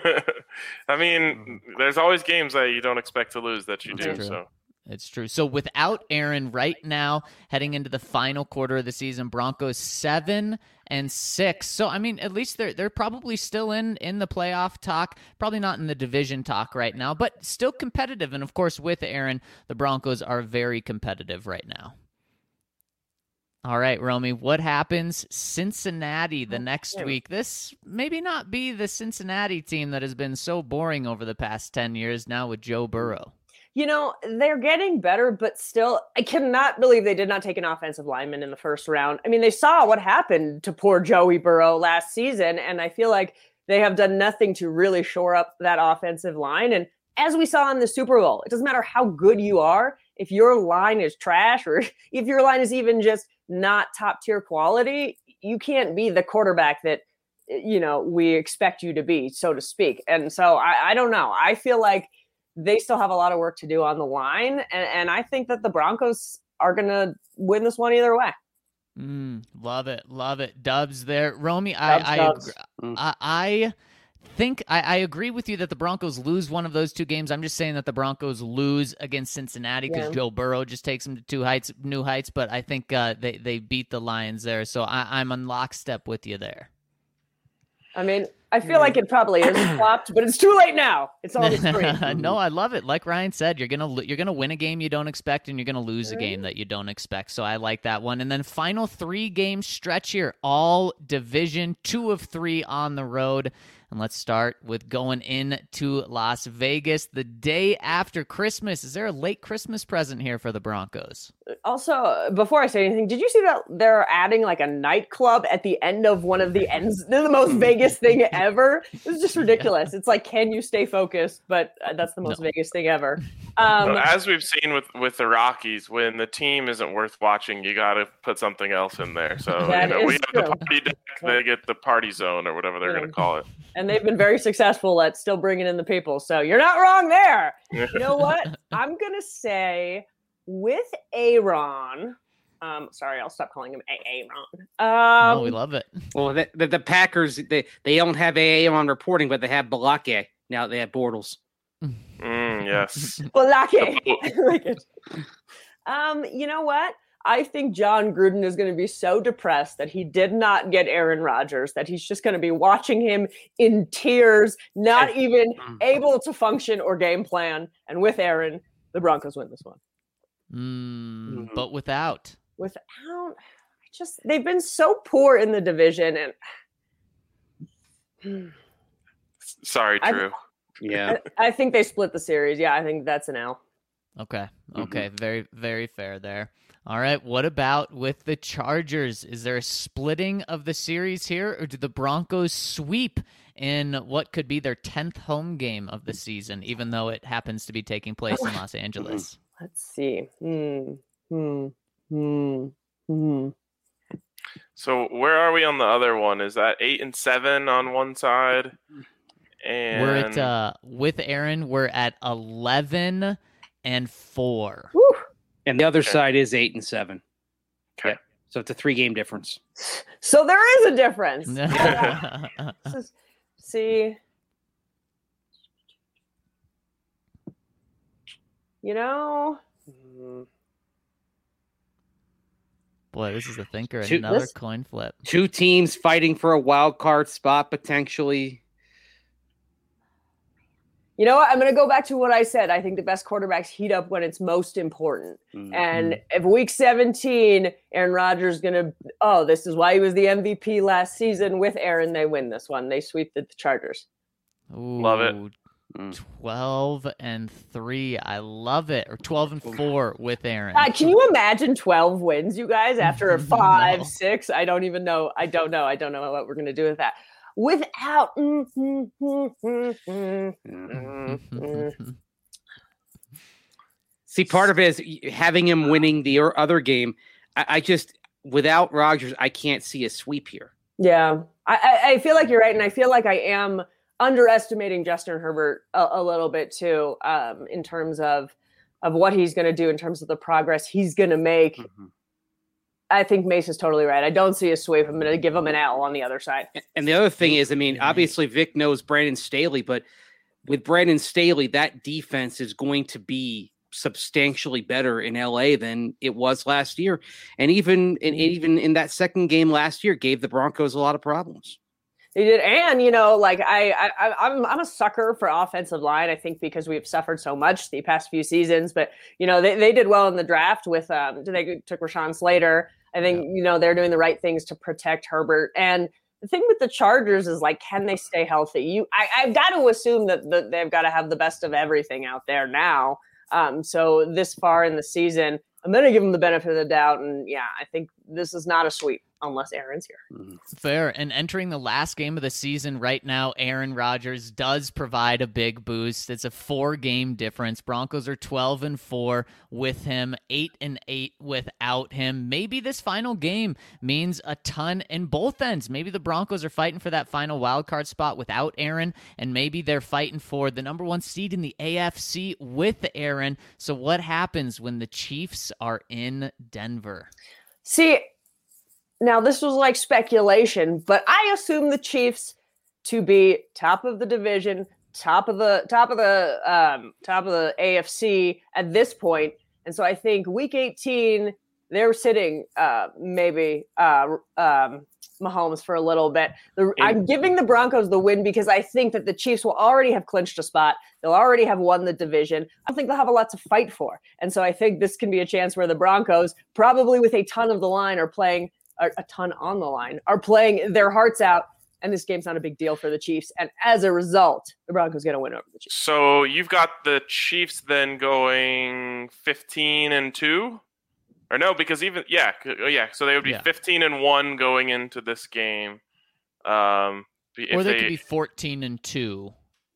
S1: I mean, there's always games that you don't expect to lose that you
S3: It's
S1: do.
S3: True.
S1: So
S3: it's true. So without Aaron right now, heading into the final quarter of the season, Broncos seven and six. So I mean, at least they're they're probably still in in the playoff talk. Probably not in the division talk right now, but still competitive. And of course, with Aaron, the Broncos are very competitive right now. All right, Romy, what happens Cincinnati the next week? This maybe not be the Cincinnati team that has been so boring over the past ten years now with Joe Burrow.
S2: You know, they're getting better, but still, I cannot believe they did not take an offensive lineman in the first round. I mean, they saw what happened to poor Joey Burrow last season, and I feel like they have done nothing to really shore up that offensive line. And as we saw in the Super Bowl, it doesn't matter how good you are. If your line is trash or if your line is even just not top tier quality, you can't be the quarterback that, you know, we expect you to be, so to speak. And so I, I don't know. I feel like they still have a lot of work to do on the line. And, and I think that the Broncos are going to win this one either way.
S3: Mm, love it. Love it. Dubs there. Romy,
S2: Dubs,
S3: I,
S2: dubs.
S3: I, I, I think I, I agree with you that the Broncos lose one of those two games. I'm just saying that the Broncos lose against Cincinnati because
S2: Yeah.
S3: Joe Burrow just takes them to two heights, new heights. But I think uh, they they beat the Lions there, so I, I'm on lockstep with you there.
S2: I mean, I feel like it probably is flopped, but it's too late now. It's all the screen.
S3: No, I love it. Like Ryan said, you're gonna you're gonna win a game you don't expect, and you're gonna lose a game that you don't expect. So I like that one. And then final three game stretch here, all division, two of three on the road. And let's start with going into Las Vegas the day after Christmas. Is there a late Christmas present here for the Broncos?
S2: Also, before I say anything, did you see that they're adding like a nightclub at the end of one of the ends? They're the most Vegas thing ever. It's just ridiculous. It's like, can you stay focused? But that's the most
S3: No.
S2: Vegas thing ever. Um,
S1: So as we've seen with, with the Rockies, when the team isn't worth watching, you got to put something else in there. So you
S2: That
S1: know,
S2: is
S1: we have
S2: true.
S1: the party deck, they get the party zone or whatever they're
S2: Yeah.
S1: going to call it.
S2: and they've been very successful at still bringing in the people. So you're not wrong there. You know what? I'm going to say with Aaron, um, sorry, I'll stop calling him Aaron. Um,
S3: Oh, we love it.
S4: Well, the, the, the Packers, they, they don't have A A on reporting, but they have Balake. Now they have Bortles.
S1: Mm, yes.
S2: Well, lucky. Like it. Um, you know what? I think John Gruden is going to be so depressed that he did not get Aaron Rodgers, that he's just going to be watching him in tears, not even able to function or game plan. And with Aaron, the Broncos win this one.
S3: Mm, but without.
S2: Without, I just they've been so poor in the division, and
S1: Sorry,
S2: I-
S1: Drew.
S4: Yeah.
S2: I, I think they split the series. Yeah, I think that's an L.
S3: Okay. Okay. Very, very fair there. All right. What about with the Chargers? Is there a splitting of the series here, or do the Broncos sweep in what could be their tenth home game of the season, even though it happens to be taking place in Los Angeles?
S2: Let's see. Hmm. Hmm. Hmm. Hmm.
S1: So where are we on the other one? Is that eight and seven on one side? And
S3: We're at uh, with Aaron. We're at eleven and four.
S2: Whew.
S4: And the other
S1: Okay.
S4: side is eight and seven.
S1: Okay.
S4: So it's a three-game difference.
S2: So there is a difference. Is, see, you know,
S3: boy, this is a thinker.
S4: Two,
S3: Another
S2: this,
S3: coin flip.
S4: Two teams fighting for a wild card spot potentially.
S2: You know what? I'm going to go back to what I said. I think the best quarterbacks heat up when it's most important. Mm-hmm. And if week seventeen, Aaron Rodgers is going to, oh, this is why he was the M V P last season with Aaron. They win this one. They sweep the Chargers.
S3: Ooh,
S1: love it.
S3: twelve and three. I love it. Or twelve and four with Aaron.
S2: Uh, can you imagine twelve wins, you guys, after a five,
S3: no.
S2: six? I don't even know. I don't know. I don't know what we're going to do with that. Without mm, mm, mm, mm, mm, mm, mm.
S4: See, part of it is having him winning the other game. I, I just, without Rodgers, I can't see a sweep here.
S2: Yeah, I, I feel like you're right, and I feel like I am underestimating Justin Herbert a, a little bit too, um, in terms of of what he's going to do, in terms of the progress he's going to make. Mm-hmm. I think Mace is totally right. I don't see a sweep. I'm going to give him an L on the other side.
S4: And the other thing is, I mean, obviously Vic knows Brandon Staley, but with Brandon Staley, that defense is going to be substantially better in L A than it was last year. And even in, even in that second game last year, gave the Broncos a lot of problems.
S2: They did. And, you know, like I, I, I'm, I'm a sucker for offensive line, I think, because we've suffered so much the past few seasons. But, you know, they, they did well in the draft with, um, they took Rashawn Slater. I think, yeah. you know, they're doing the right things to protect Herbert. And the thing with the Chargers is, like, can they stay healthy? You, I, I've got to assume that the, they've got to have the best of everything out there now. Um, so this far in the season, I'm going to give them the benefit of the doubt. And, yeah, I think this is not a sweep unless Aaron's here.
S3: Fair. And entering the last game of the season right now, Aaron Rodgers does provide a big boost. It's a four-game difference. Broncos are twelve and four with him, eight and eight without him. Maybe this final game means a ton in both ends. Maybe the Broncos are fighting for that final wild card spot without Aaron, and maybe they're fighting for the number one seed in the A F C with Aaron. So what happens when the Chiefs are in Denver?
S2: See, now, this was like speculation, but I assume the Chiefs to be top of the division, top of the top of the um, top of the A F C at this point, and so I think Week eighteen they're sitting uh, maybe uh, um, Mahomes for a little bit. The, I'm giving the Broncos the win because I think that the Chiefs will already have clinched a spot. They'll already have won the division. I don't think they'll have a lot to fight for, and so I think this can be a chance where the Broncos, probably with a ton of the line, are playing. A, a ton on the line, are playing their hearts out, and this game's not a big deal for the Chiefs. And as a result, the Broncos going to win over the Chiefs.
S1: So you've got the Chiefs then going fifteen and two, or no? Because even yeah, yeah. So they would be yeah. fifteen and one going into this game, um,
S3: or they, they could be fourteen and two.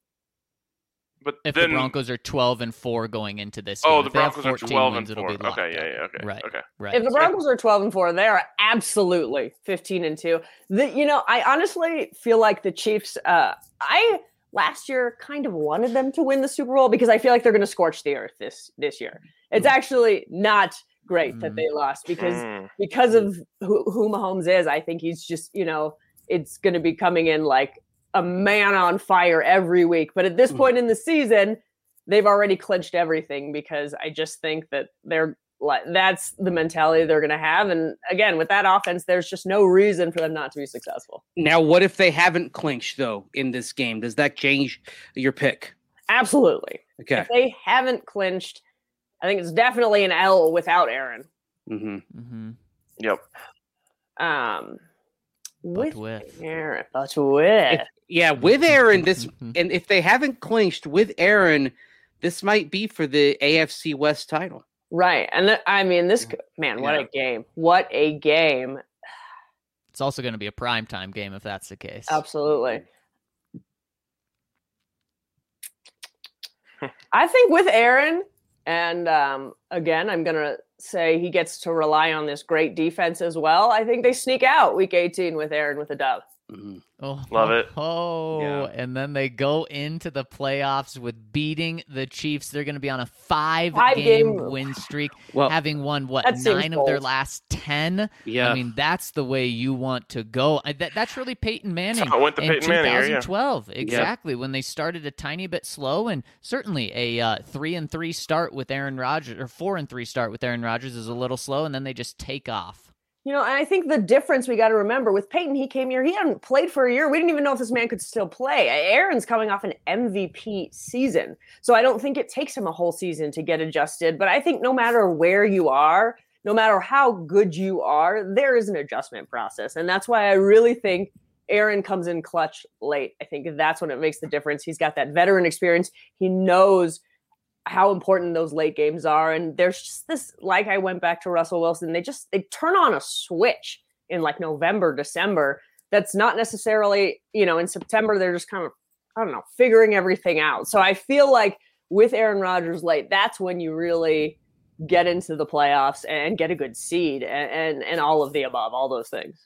S1: But
S3: if
S1: then,
S3: the Broncos are twelve and four going into this
S1: oh,
S3: game.
S1: the
S3: if
S1: Broncos are twelve
S3: wins,
S1: and four. Okay, yeah, yeah, okay,
S3: right,
S1: okay,
S3: right.
S2: If the Broncos are twelve and four, they are absolutely fifteen and two. The, you know, I honestly feel like the Chiefs. Uh, I last year kind of wanted them to win the Super Bowl because I feel like they're going to scorch the earth this this year. It's mm. actually not great mm. that they lost because mm. because of who, who Mahomes is. I think he's just, you know, it's going to be coming in like a man on fire every week. But at this mm. point in the season, they've already clinched everything because I just think that they're like, that's the mentality they're going to have. And again, with that offense, there's just no reason for them not to be successful.
S4: Now, what if they haven't clinched though in this game? Does that change your pick?
S2: Absolutely.
S4: Okay.
S2: If they haven't clinched, I think it's definitely an L without Aaron.
S4: Mm-hmm.
S3: Mm-hmm.
S1: Yep.
S2: Um, with,
S3: with
S2: Aaron, but with.
S4: If, yeah, with Aaron, this, and if they haven't clinched with Aaron, this might be for the A F C West title.
S2: Right. And th- I mean, this, man, what yeah. a game. What a game.
S3: It's also going to be a primetime game if that's the case.
S2: Absolutely. I think with Aaron, and um, again, I'm going to say he gets to rely on this great defense as well. I think they sneak out week eighteen with Aaron with a dub.
S4: Mm-hmm.
S3: Oh,
S1: love it.
S3: Oh, yeah. And then they go into the playoffs with beating the Chiefs. They're going to be on a five, five game, game win streak,
S4: well,
S3: having won, what, nine of their last ten.
S4: Yeah.
S3: I mean, that's the way you want to go. I, that, that's really Peyton Manning
S1: I went to
S3: in
S1: Peyton Manning here, yeah.
S3: twenty twelve. Exactly. When they started a tiny bit slow, and certainly a uh, three and three start with Aaron Rodgers, or four and three start with Aaron Rodgers is a little slow, and then they just take off.
S2: You know, and I think the difference we got to remember with Peyton, he came here, he hadn't played for a year. We didn't even know if this man could still play. Aaron's coming off an M V P season. So I don't think it takes him a whole season to get adjusted. But I think no matter where you are, no matter how good you are, there is an adjustment process. And that's why I really think Aaron comes in clutch late. I think that's when it makes the difference. He's got that veteran experience. He knows how important those late games are. And there's just this, like I went back to Russell Wilson, they just, they turn on a switch in like November, December. That's not necessarily, you know, in September, they're just kind of, I don't know, figuring everything out. So I feel like with Aaron Rodgers late, that's when you really get into the playoffs and get a good seed and, and, and all of the above, all those things.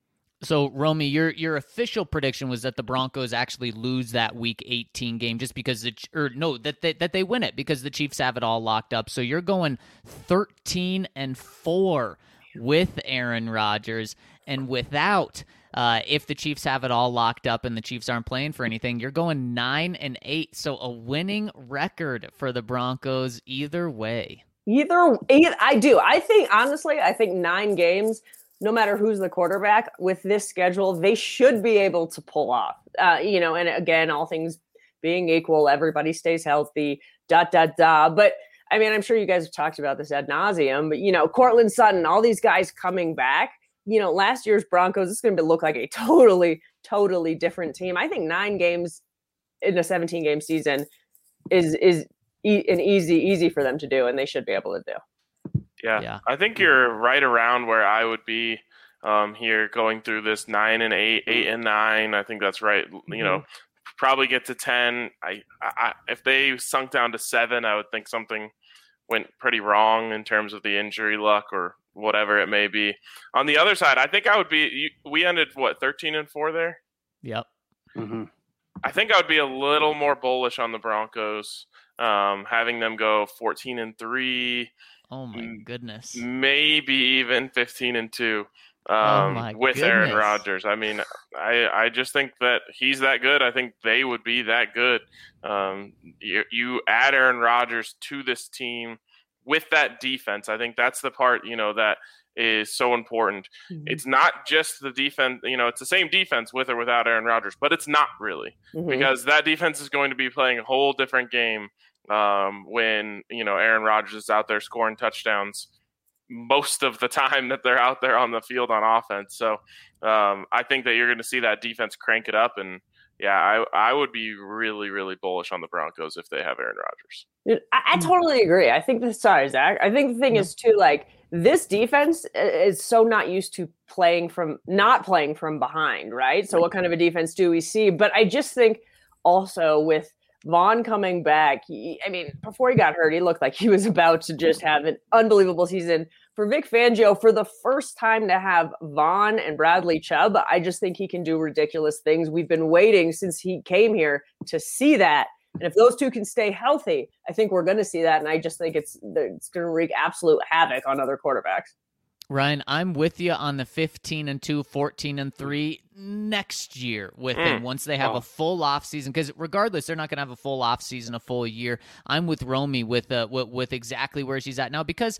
S3: So, Romy, your your official prediction was that the Broncos actually lose that Week eighteen game just because the or no that they, that they win it because the Chiefs have it all locked up. So you're going thirteen and four with Aaron Rodgers, and without uh, if the Chiefs have it all locked up and the Chiefs aren't playing for anything, you're going nine and eight. So a winning record for the Broncos either way.
S2: Either, either I do. I think honestly, I think nine games. No matter who's the quarterback with this schedule, they should be able to pull off, uh, you know, and again, all things being equal, everybody stays healthy, dot, dot, dot. But I mean, I'm sure you guys have talked about this ad nauseum, but, you know, Cortland Sutton, all these guys coming back, you know, last year's Broncos, it's going to look like a totally, totally different team. I think nine games in a seventeen game season is, is e- an easy, easy for them to do, and they should be able to do.
S1: Yeah.
S3: Yeah.
S1: I think you're right around where I would be um, here going through this nine and eight, eight and nine. I think that's right. Mm-hmm. You know, probably get to ten. I, I, if they sunk down to seven, I would think something went pretty wrong in terms of the injury luck or whatever it may be. On the other side, I think I would be, you, we ended what, thirteen and four there?
S3: Yep.
S4: Mm-hmm.
S1: I think I would be a little more bullish on the Broncos, um, having them go fourteen and three.
S3: Oh my goodness.
S1: Maybe even fifteen and two um,
S3: oh my
S1: with
S3: goodness.
S1: Aaron Rodgers. I mean, I, I just think that he's that good. I think they would be that good. Um, you, you add Aaron Rodgers to this team with that defense. I think that's the part, you know, that is so important. Mm-hmm. It's not just the defense, you know, it's the same defense with or without Aaron Rodgers, but it's not really mm-hmm. because that defense is going to be playing a whole different game um, when, you know, Aaron Rodgers is out there scoring touchdowns most of the time that they're out there on the field on offense. So um, I think that you're going to see that defense crank it up. And yeah, I, I would be really, really bullish on the Broncos if they have Aaron Rodgers.
S2: Dude, I, I totally agree. I think the sorry, Zach. I think the thing is too, like, this defense is so not used to playing from not playing from behind, right? So what kind of a defense do we see? But I just think also with Vaughn coming back, he, I mean, before he got hurt, he looked like he was about to just have an unbelievable season. For Vic Fangio, for the first time to have Vaughn and Bradley Chubb, I just think he can do ridiculous things. We've been waiting since he came here to see that. And if those two can stay healthy, I think we're going to see that. And I just think it's it's going to wreak absolute havoc on other quarterbacks.
S3: Ryan, I'm with you on the fifteen and two, fourteen and three next year with them once they have
S4: Oh.
S3: a full off season. Because regardless, they're not going to have a full off season, a full year. I'm with Romy with, uh, with with exactly where she's at now because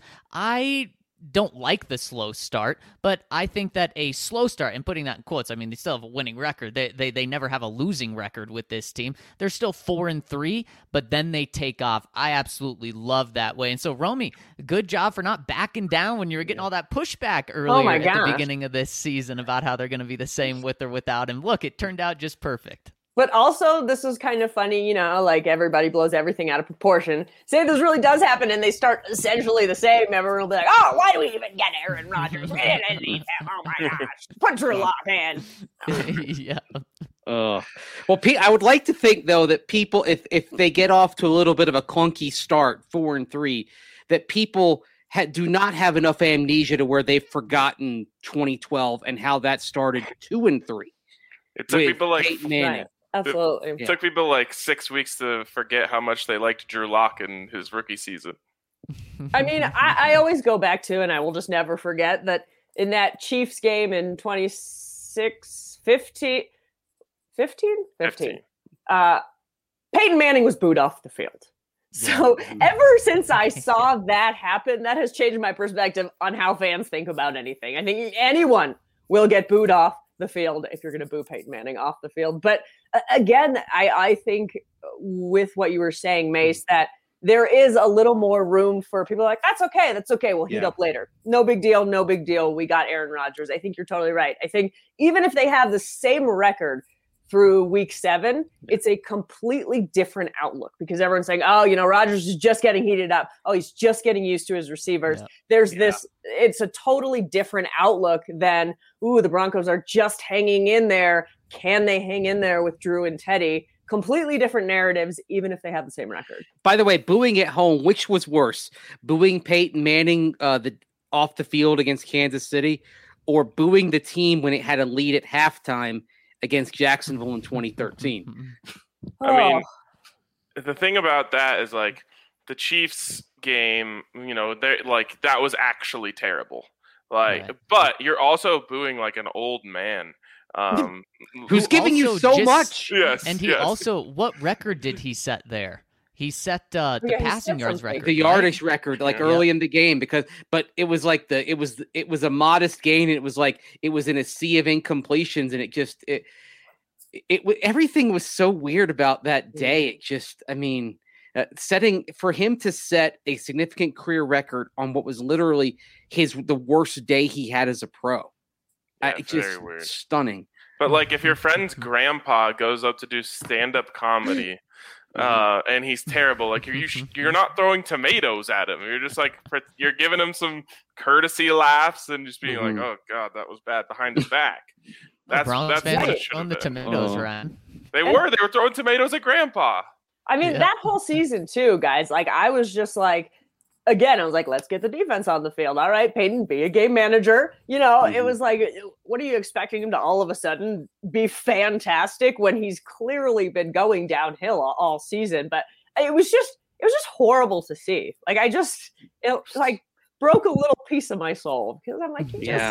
S3: I don't like the slow start, but I think that a slow start, and putting that in quotes, I mean, they still have a winning record. They they they never have a losing record with this team. They're still four and three, but then they take off. I absolutely love that way. And so, Romy, good job for not backing down when you were getting all that pushback earlier
S2: my
S3: at
S2: gosh.
S3: the beginning of this season about how they're going to be the same with or without him. Look, it turned out just perfect.
S2: But also, this is kind of funny, you know, like everybody blows everything out of proportion. Say this really does happen and they start essentially the same. Everyone will be like, oh, why do we even get Aaron Rodgers? We didn't need him. Oh, my gosh. Put Drew Lock in.
S3: yeah.
S4: Uh, well, Pete, I would like to think, though, that people, if if they get off to a little bit of a clunky start, four and three, that people ha- do not have enough amnesia to where they've forgotten twenty twelve and how that started two and three.
S1: It took
S4: with
S1: people like
S4: Peyton Manning.
S2: Right. Absolutely.
S1: it took people like six weeks to forget how much they liked Drew Lock in his rookie season.
S2: I mean, I, I always go back to, and I will just never forget that in that Chiefs game in twenty-six, fifteen, fifteen, fifteen, uh, Peyton Manning was booed off the field. So yeah. ever since I saw that happen, that has changed my perspective on how fans think about anything. I think anyone will get booed off the field if you're going to boo Peyton Manning off the field. But uh, again, I, I think with what you were saying, Mace, that there is a little more room for people like, that's okay. That's okay. We'll heat yeah. up later. No big deal. No big deal. We got Aaron Rodgers. I think you're totally right. I think even if they have the same record through week seven, it's a completely different outlook because everyone's saying, oh, you know, Rodgers is just getting heated up. Oh, he's just getting used to his receivers. Yeah. There's yeah. this, it's a totally different outlook than, ooh, the Broncos are just hanging in there. Can they hang in there with Drew and Teddy? Completely different narratives, even if they have the same record.
S4: By the way, booing at home, which was worse? Booing Peyton Manning uh, the off the field against Kansas City, or booing the team when it had a lead at halftime against Jacksonville in twenty thirteen?
S1: I mean, the thing about that is like the Chiefs game, you know, they like that was actually terrible. Like, right. But you're also booing like an old man. Um,
S4: who's who giving you so
S3: just,
S4: much.
S1: Yes,
S3: and he
S1: yes.
S3: also, what record did he set there? He set uh, the yeah, passing yards record,
S4: the yardage right? record, like yeah. early in the game, because, but it was like the, it was, it was a modest gain. And it was like, it was in a sea of incompletions, and it just, it, it, it everything was so weird about that day. It just, I mean, uh, setting for him to set a significant career record on what was literally his, the worst day he had as a pro.
S1: Yeah,
S4: I, just
S1: weird.
S4: Stunning.
S1: But like, if your friend's grandpa goes up to do stand-up comedy, uh, and he's terrible, like you're you're not throwing tomatoes at him. You're just like you're giving him some courtesy laughs and just being mm-hmm. like, "Oh God, that was bad," behind his back. That's
S3: that's
S1: what it
S3: throwing the tomatoes
S4: oh.
S3: around.
S1: They were. They were throwing tomatoes at Grandpa.
S2: I mean, yeah. that whole season too, guys. Like, I was just like. Again, I was like, let's get the defense on the field. All right, Peyton, be a game manager. You know, mm-hmm. it was like, what are you expecting him to all of a sudden be fantastic when he's clearly been going downhill all, all season? But it was just, it was just horrible to see. Like, I just, it like broke a little piece of my soul because I'm like,
S4: yeah.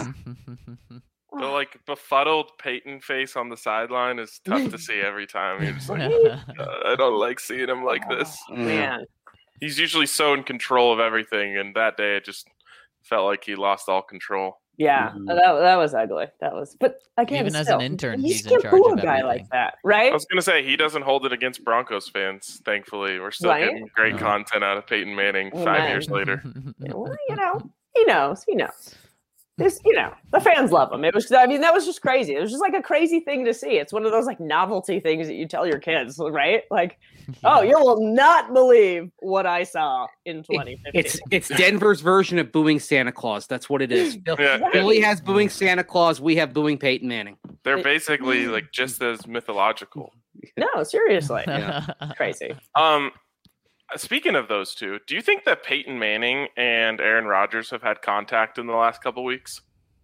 S1: The like befuddled Peyton face on the sideline is tough to see every time. You're just like, uh, I don't like seeing him like this.
S2: Oh, man.
S1: He's usually so in control of everything, and that day it just felt like he lost all control.
S2: Yeah, mm-hmm. that that was ugly. That was, but again,
S3: even
S2: still,
S3: as an intern,
S2: he's
S3: in charge of
S2: a guy
S3: everything.
S2: Like that, right?
S1: I was gonna say he doesn't hold it against Broncos fans. Thankfully, we're still
S2: right?
S1: getting great
S3: no.
S1: content out of Peyton Manning
S2: oh,
S1: five
S2: man.
S1: years later.
S2: Yeah, well, you know, he knows. He knows. This, you know, the fans love him. It was, I mean, that was just crazy. It was just like a crazy thing to see. It's one of those like novelty things that you tell your kids, right? Like, yeah. oh, you will not believe what I saw in twenty fifteen.
S4: It's it's Denver's version of booing Santa Claus. That's what it is.
S1: Yeah.
S4: Philly has booing Santa Claus. We have booing Peyton Manning.
S1: They're basically like just as mythological.
S2: No, seriously, yeah. Crazy.
S1: Um. Speaking of those two, do you think that Peyton Manning and Aaron Rodgers have had contact in the last couple weeks?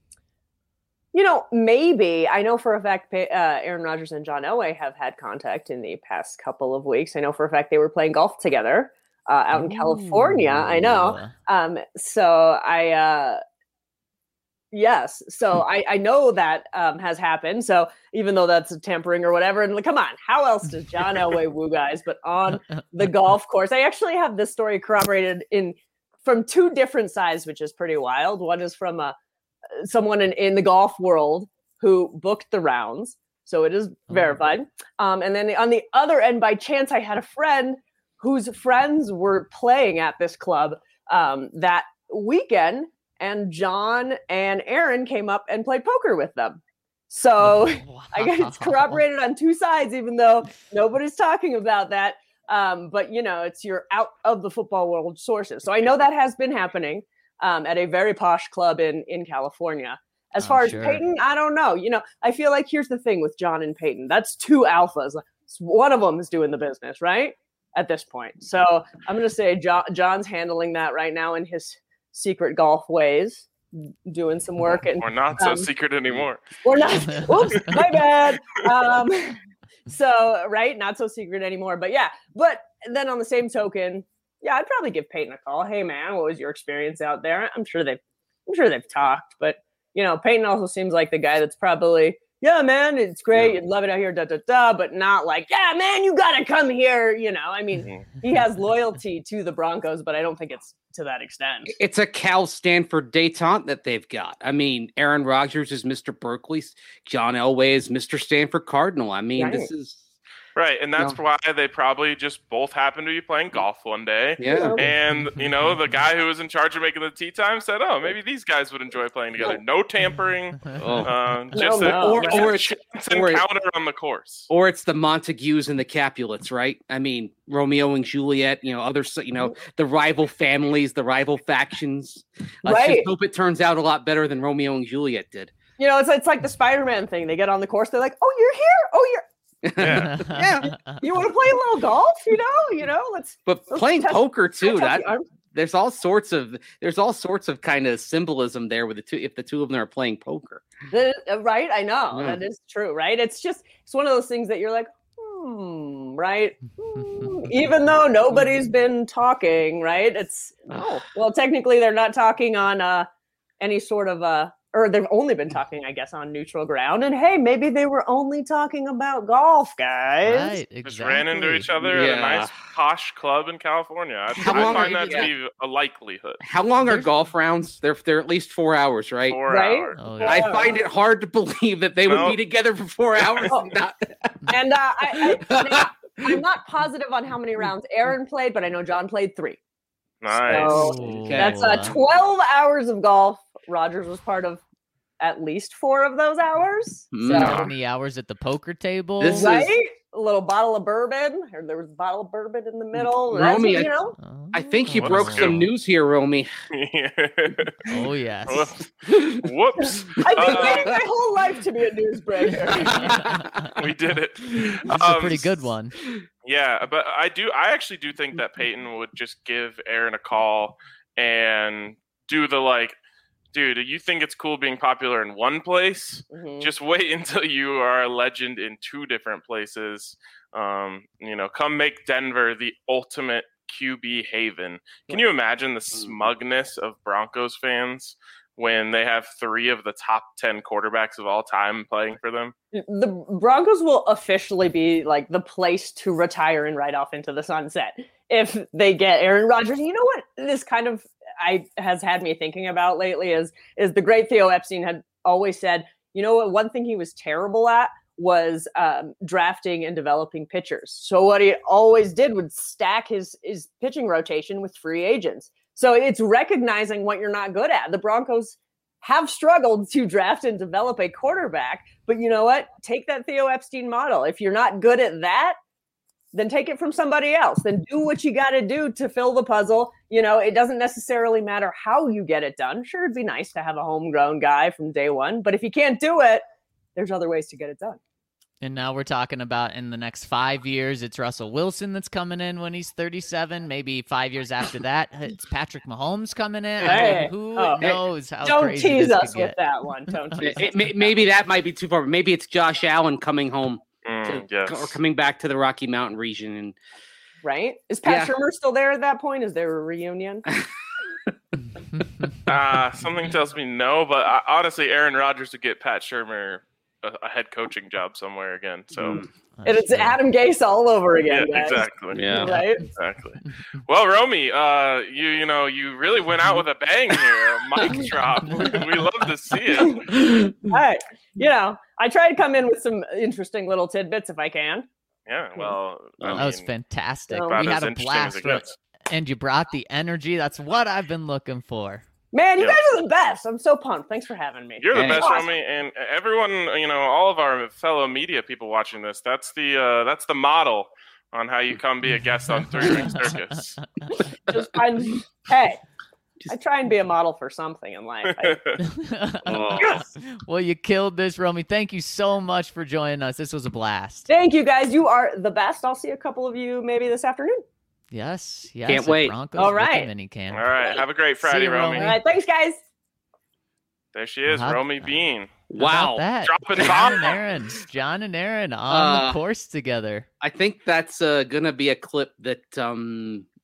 S2: You know, maybe. I know for a fact uh, Aaron Rodgers and John Elway have had contact in the past couple of weeks. I know for a fact they were playing golf together uh, out in Ooh. California. I know. Um, so I, uh, yes. So I, I know that um, has happened. So even though that's tampering or whatever, and like, come on, how else does John Elway woo guys but on the golf course? I actually have this story corroborated in from two different sides, which is pretty wild. One is from a someone in, in the golf world who booked the rounds. So it is verified. Um, and then on the other end, by chance, I had a friend whose friends were playing at this club um, that weekend, and John and Aaron came up and played poker with them. So wow. I guess it's corroborated on two sides, even though nobody's talking about that. Um, but, you know, it's your out of the football world sources. So I know that has been happening. Um, at a very posh club in, in California. As far
S3: I'm
S2: as
S3: sure.
S2: Peyton, I don't know. You know, I feel like here's the thing with John and Peyton. That's two alphas. One of them is doing the business, right? At this point. So I'm going to say John, John's handling that right now in his secret golf ways, doing some work. And
S1: Or not
S2: um,
S1: so secret anymore.
S2: Or not. Whoops, my bad. Um, so, right? Not so secret anymore. But yeah. But then on the same token, yeah, I'd probably give Peyton a call. Hey, man, what was your experience out there? I'm sure they've, I'm sure they've talked, but you know, Peyton also seems like the guy that's probably, yeah, man, it's great. Yeah. You'd love it out here, da da da, but not like, yeah, man, you gotta come here. You know, I mean, mm-hmm. he has loyalty to the Broncos, but I don't think it's to that extent.
S4: It's a Cal Stanford detente that they've got. I mean, Aaron Rodgers is Mister Berkeley, John Elway is Mister Stanford Cardinal. I mean, right. this is.
S1: Right, and that's no. why they probably just both happened to be playing golf one day.
S4: Yeah.
S1: And, you know, the guy who was in charge of making the tee time said, oh, maybe these guys would enjoy playing together. No tampering. Oh. Uh, just
S2: no, no.
S1: a,
S2: Or,
S1: or, it's an encounter on the course.
S4: Or it's the Montagues and the Capulets, right? I mean, Romeo and Juliet, you know, other, you know, the rival families, the rival factions. Let's
S2: right.
S4: just hope it turns out a lot better than Romeo and Juliet did.
S2: You know, it's, it's like the Spider-Man thing. They get on the course. They're like, oh, you're here? Oh, you're...
S1: Yeah,
S2: yeah. You want to play a little golf? You know, you know. Let's.
S4: But
S2: let's
S4: playing
S2: test,
S4: poker too. That
S2: the
S4: there's all sorts of there's all sorts of kind of symbolism there with the two. If the two of them are playing poker,
S2: the, uh, right? I know
S4: yeah.
S2: that is true. Right? It's just it's one of those things that you're like, hmm, right? Hmm. Even though nobody's been talking, right? It's oh well, technically they're not talking on uh any sort of uh. Or they've only been talking, I guess, on neutral ground. And hey, maybe they were only talking about golf, guys.
S3: Right, exactly.
S1: Just ran into each other
S4: yeah.
S1: at a nice posh club in California. I,
S4: How
S1: I
S4: long
S1: find
S4: are,
S1: that
S4: yeah.
S1: to be a likelihood.
S4: How long are golf rounds? They're they're at least four hours, right?
S1: Four
S2: right?
S1: hours.
S3: Oh,
S4: yeah. I find it hard to believe that they
S1: no.
S4: would be together for four hours.
S2: Oh.
S4: and not...
S2: and uh, I, I, I'm not positive on how many rounds Aaron played, but I know John played three.
S1: Nice.
S2: So
S3: okay.
S2: That's uh, twelve hours of golf. Rodgers was part of at least four of those hours.
S3: So how many hours at the poker table?
S4: This
S2: right?
S4: is...
S2: A little bottle of bourbon. Or there was a bottle of bourbon in the middle.
S4: Romy,
S2: you know?
S4: I think you
S1: What
S4: broke
S1: a
S4: some
S1: skill.
S4: news here, Romy.
S3: Oh, yes.
S1: Whoops.
S2: I've been
S1: Uh,
S2: waiting my whole life to be a newsbreaker.
S1: we did it.
S3: This is
S1: Um,
S3: a pretty good one.
S1: Yeah, but I do. I actually do think that Peyton would just give Aaron a call and do the like, dude, you think it's cool being popular in one place?
S2: Mm-hmm.
S1: Just wait until you are a legend in two different places. Um, you know, come make Denver the ultimate Q B haven. Can you imagine the smugness of Broncos fans when they have three of the top ten quarterbacks of all time playing for them?
S2: The Broncos will officially be like the place to retire and ride off into the sunset if they get Aaron Rodgers. You know what this kind of I has had me thinking about lately is is the great Theo Epstein had always said, you know what, one thing he was terrible at was um, drafting and developing pitchers. So what he always did would stack his his pitching rotation with free agents. So it's recognizing what you're not good at. The Broncos have struggled to draft and develop a quarterback, but you know what? Take that Theo Epstein model. If you're not good at that, then take it from somebody else. Then do what you got to do to fill the puzzle. You know, it doesn't necessarily matter how you get it done. Sure, it'd be nice to have a homegrown guy from day one, but if you can't do it, there's other ways to get it done.
S3: And now we're talking about in the next five years, it's Russell Wilson that's coming in when he's thirty-seven. Maybe five years after that, it's Patrick Mahomes coming in.
S2: Hey,
S3: I mean, who
S2: oh,
S3: knows
S2: hey,
S3: how
S2: don't
S3: crazy
S2: tease
S3: this
S2: us
S3: could
S2: with
S3: get.
S2: that one. Don't tease
S4: it, it, maybe that might be too far. Maybe it's Josh Allen coming home
S1: Mm,
S4: to,
S1: yes.
S4: or coming back to the Rocky Mountain region. And
S2: Right? Is Pat
S4: Yeah.
S2: Shurmur still there at that point? Is there a reunion?
S1: Uh, something tells me no, but uh, honestly, Aaron Rodgers would get Pat Shurmur a, a head coaching job somewhere again. So
S4: Mm.
S2: And it's Adam Gase all over again,
S1: yeah,
S2: guys.
S1: exactly.
S4: Yeah.
S2: Right?
S1: Exactly. Well, Romy, uh, you you know you really went out with a bang here, a mic drop. We, we love to see it.
S2: All right. You know, I try to come in with some interesting little tidbits if I can.
S1: Yeah. Well, I
S3: That was
S1: mean,
S3: fantastic.
S2: about
S3: We
S1: as
S3: had a
S1: interesting as
S3: blast,
S1: it
S3: right?
S1: gets.
S3: And you brought the energy. That's what I've been looking for.
S2: Man, you
S1: Yeah.
S2: guys are the best. I'm so pumped. Thanks for having me.
S1: You're the
S4: Hey.
S1: best,
S2: Awesome.
S1: Romy, and everyone. You know, all of our fellow media people watching this. That's the uh, that's the model on how you come be a guest on Three Ring Circus.
S2: Just find, hey, I try and be a model for something in life. I,
S4: Oh.
S3: Well, you killed this, Romy. Thank you so much for joining us. This was a blast.
S2: thank you, guys. You are the best. I'll see a couple of you maybe this afternoon.
S3: Yes, yes.
S4: Can't
S3: at
S4: wait.
S3: Broncos
S2: All
S3: with the
S2: right.
S3: mini camp.
S1: All right. Have a great
S3: See
S1: Friday,
S3: you,
S1: Romy.
S2: All right. Thanks, guys.
S1: There she is,
S3: How-
S1: Romy Bean.
S3: How
S4: Wow.
S3: about that?
S1: Dropping
S3: John and
S1: bombs.
S3: Aaron. John and Aaron on
S4: Uh,
S3: the course together.
S4: I think that's uh, going to be a clip that um,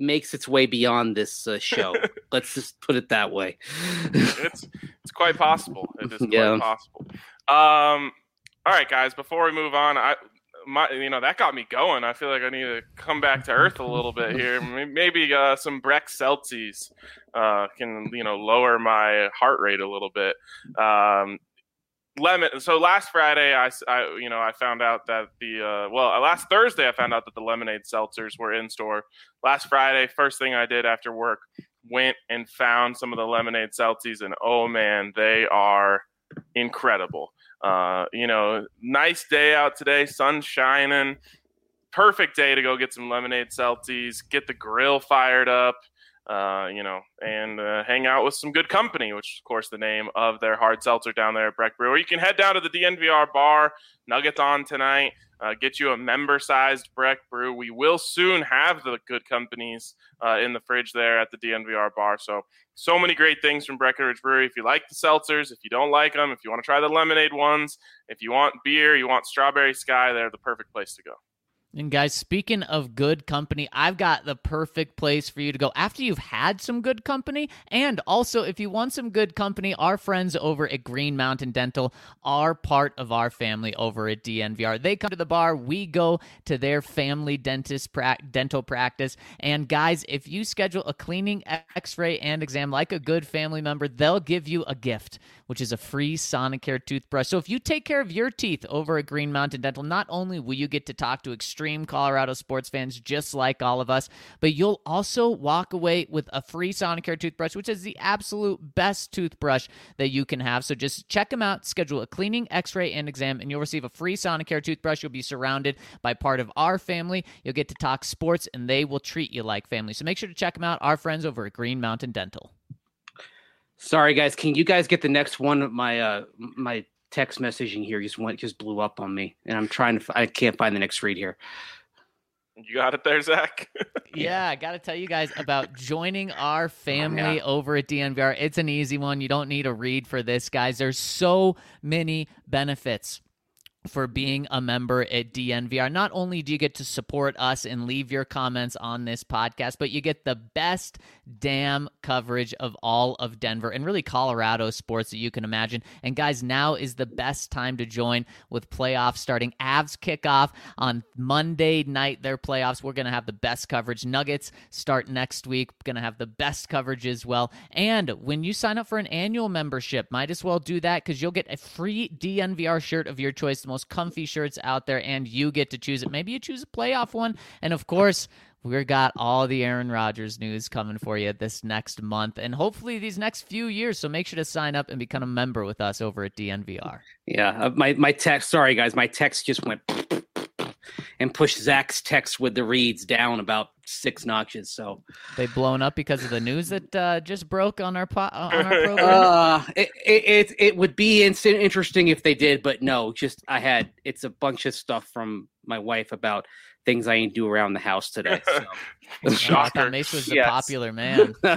S4: makes its way beyond this uh, show. Let's just put it that way.
S1: it's it's quite possible. It is quite
S4: Yeah.
S1: possible. Um, all right, guys. Before we move on, I my you know that got me going. I feel like I need to come back to earth a little bit here. Maybe uh, some Breck Celtics uh, can you know lower my heart rate a little bit. Um, Lemon. So last Friday, I, I, you know, I found out that the uh, well, last Thursday, I found out that the lemonade seltzers were in store. Last Friday, first thing I did after work, went and found some of the lemonade seltzies, and oh man, they are incredible. Uh, you know, nice day out today, sun shining, perfect day to go get some lemonade seltzies, get the grill fired up. Uh, you know, and uh, hang out with some good company, which is, of course, the name of their hard seltzer down there at Breck Brew. Or you can head down to the D N V R bar, Nuggets on tonight, uh, get you a member-sized Breck Brew. We will soon have the good companies uh, in the fridge there at the D N V R bar. So, so many great things from Breckenridge Brewery. If you like the seltzers, if you don't like them, if you want to try the lemonade ones, if you want beer, you want Strawberry Sky, they're the perfect place to go.
S3: And guys, speaking of good company, I've got the perfect place for you to go after you've had some good company. And also, if you want some good company, our friends over at Green Mountain Dental are part of our family over at D N V R. They come to the bar. We go to their family dentist pra- dental practice. And guys, if you schedule a cleaning, x-ray, and exam like a good family member, they'll give you a gift, which is a free Sonicare toothbrush. So if you take care of your teeth over at Green Mountain Dental, not only will you get to talk to extreme Colorado sports fans just like all of us, but you'll also walk away with a free Sonicare toothbrush, which is the absolute best toothbrush that you can have. So just check them out, schedule a cleaning, x-ray, and exam, and you'll receive a free Sonicare toothbrush. You'll be surrounded by part of our family. You'll get to talk sports, and they will treat you like family. So make sure to check them out, our friends over at Green Mountain Dental.
S4: Sorry, guys. Can you guys get the next one? My uh, my text messaging here just went just blew up on me, and I'm trying to. I can't find the next read here.
S1: You got it there, Zach?
S3: Yeah, I got to tell you guys about joining our family yeah. over at D N V R. It's an easy one. You don't need a read for this, guys. There's so many benefits for being a member at D N V R. Not only do you get to support us and leave your comments on this podcast, but you get the best damn coverage of all of Denver and really Colorado sports that you can imagine. And guys, now is the best time to join with playoffs starting. Avs kick off on Monday night, their playoffs. We're going to have the best coverage. Nuggets start next week. Going to have the best coverage as well. And when you sign up for an annual membership, might as well do that because you'll get a free D N V R shirt of your choice, the most comfy shirts out there, and you get to choose it. Maybe you choose a playoff one. And of course, we've got all the Aaron Rodgers news coming for you this next month and hopefully these next few years. So make sure to sign up and become a member with us over at D N V R.
S4: Yeah, uh, my, my text, sorry guys, my text just went and pushed Zach's text with the reads down about six notches. So
S3: they blown up because of the news that uh, just broke on our po- on our program.
S4: Uh, it, it it it would be instant interesting if they did, but no. Just I had it's a bunch of stuff from my wife about things I ain't do around the house today. So.
S3: Shocker! I thought Mace was the
S4: yes.
S3: popular man.
S1: All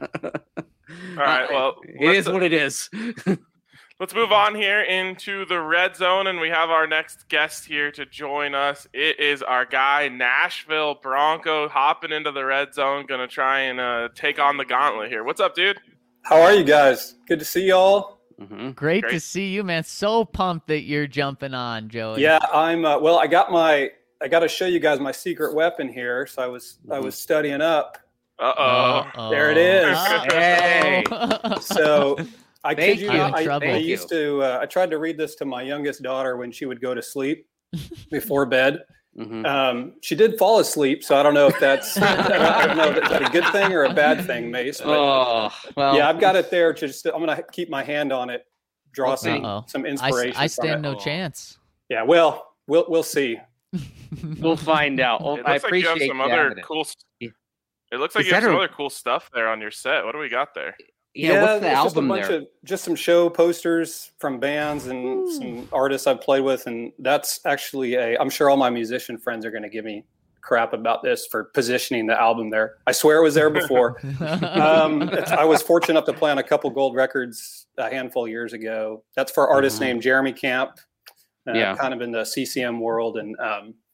S1: right, well,
S4: it is what it is.
S1: Let's move on here into the red zone, and we have our next guest here to join us. It is our guy, Nashville Bronco, hopping into the red zone, going to try and uh, take on the gauntlet here. What's up, dude?
S5: How are you guys? Good to see y'all.
S3: Mm-hmm. Great, Great to see you, man. So pumped that you're jumping on, Joey.
S5: Yeah, I'm. Uh, well, I got my. I got to show you guys my secret weapon here. So I was. Mm-hmm. I was studying up.
S1: Uh oh.
S3: Uh-oh.
S5: There it is.
S4: Hey.
S5: So. I
S4: Thank
S5: kid you,
S4: you.
S5: not, I,
S3: I
S5: I used to. Uh, I tried to read this to my youngest daughter when she would go to sleep before bed.
S4: Mm-hmm.
S5: Um, she did fall asleep, so I don't know if that's. I don't know if that's a good thing or a bad thing, Mace. But,
S4: oh, well.
S5: Yeah, I've got it there. To just, I'm going to keep my hand on it, draw
S4: we'll
S5: some some inspiration.
S3: I, I stand
S5: from
S3: no
S5: it.
S3: chance.
S5: Yeah, well, we'll we'll see.
S4: We'll find out. Well,
S1: it
S4: I
S1: looks
S4: appreciate
S1: like you have some other
S4: it.
S1: cool. It looks like
S4: Is
S1: you have some
S4: a...
S1: other cool stuff there on your set. What do we got there?
S4: Yeah,
S5: yeah,
S4: what's the
S5: it's
S4: album
S5: just a bunch
S4: there?
S5: Of, just some show posters from bands and Ooh. some artists I've played with, and that's actually a. I'm sure all my musician friends are going to give me crap about this for positioning the album there. I swear it was there before. um, it's, I was fortunate enough to play on a couple gold records a handful of years ago. That's for artists mm-hmm. named Jeremy Camp, uh,
S4: yeah.
S5: kind of in the C C M world, and um,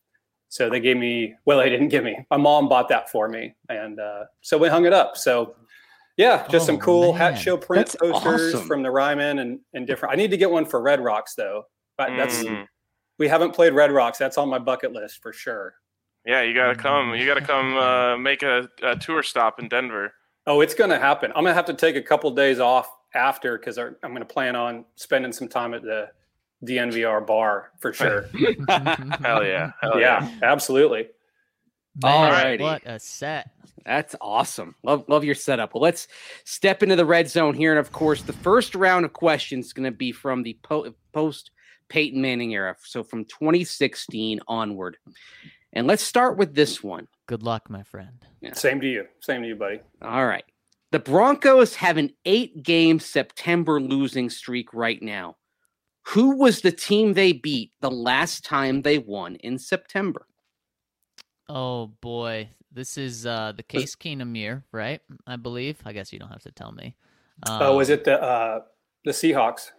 S5: So they gave me, well, they didn't give me. My mom bought that for me, and uh, so we hung it up. So yeah, just
S3: Oh,
S5: some cool
S3: man.
S5: Hat Show print
S4: That's
S5: posters
S4: awesome.
S5: from the Ryman and and different. I need to get one for Red Rocks though. But that's
S1: Mm.
S5: we haven't played Red Rocks. That's on my bucket list for sure.
S1: Yeah, you gotta come. You gotta come uh, make a, a tour stop in Denver.
S5: Oh, it's going to happen. I'm going to have to take a couple days off after because I'm going to plan on spending some time at the D N V R bar for sure.
S1: Hell yeah. Hell
S5: yeah, absolutely.
S3: Man,
S4: Alrighty.
S3: what a set.
S4: That's awesome. Love love your setup. Well, let's step into the red zone here. And of course, the first round of questions is going to be from the po- post Peyton Manning era. So from twenty sixteen onward. And let's start with this one.
S3: Good luck, my friend.
S4: Yeah.
S5: Same to you. Same to you, buddy.
S4: All right. The Broncos have an eight game September losing streak right now. Who was the team they beat the last time they won in September?
S3: Oh boy, this is uh, the Case Keenum year, right? I believe. I guess you don't have to tell me. Um,
S5: Oh, was it the uh, the Seahawks?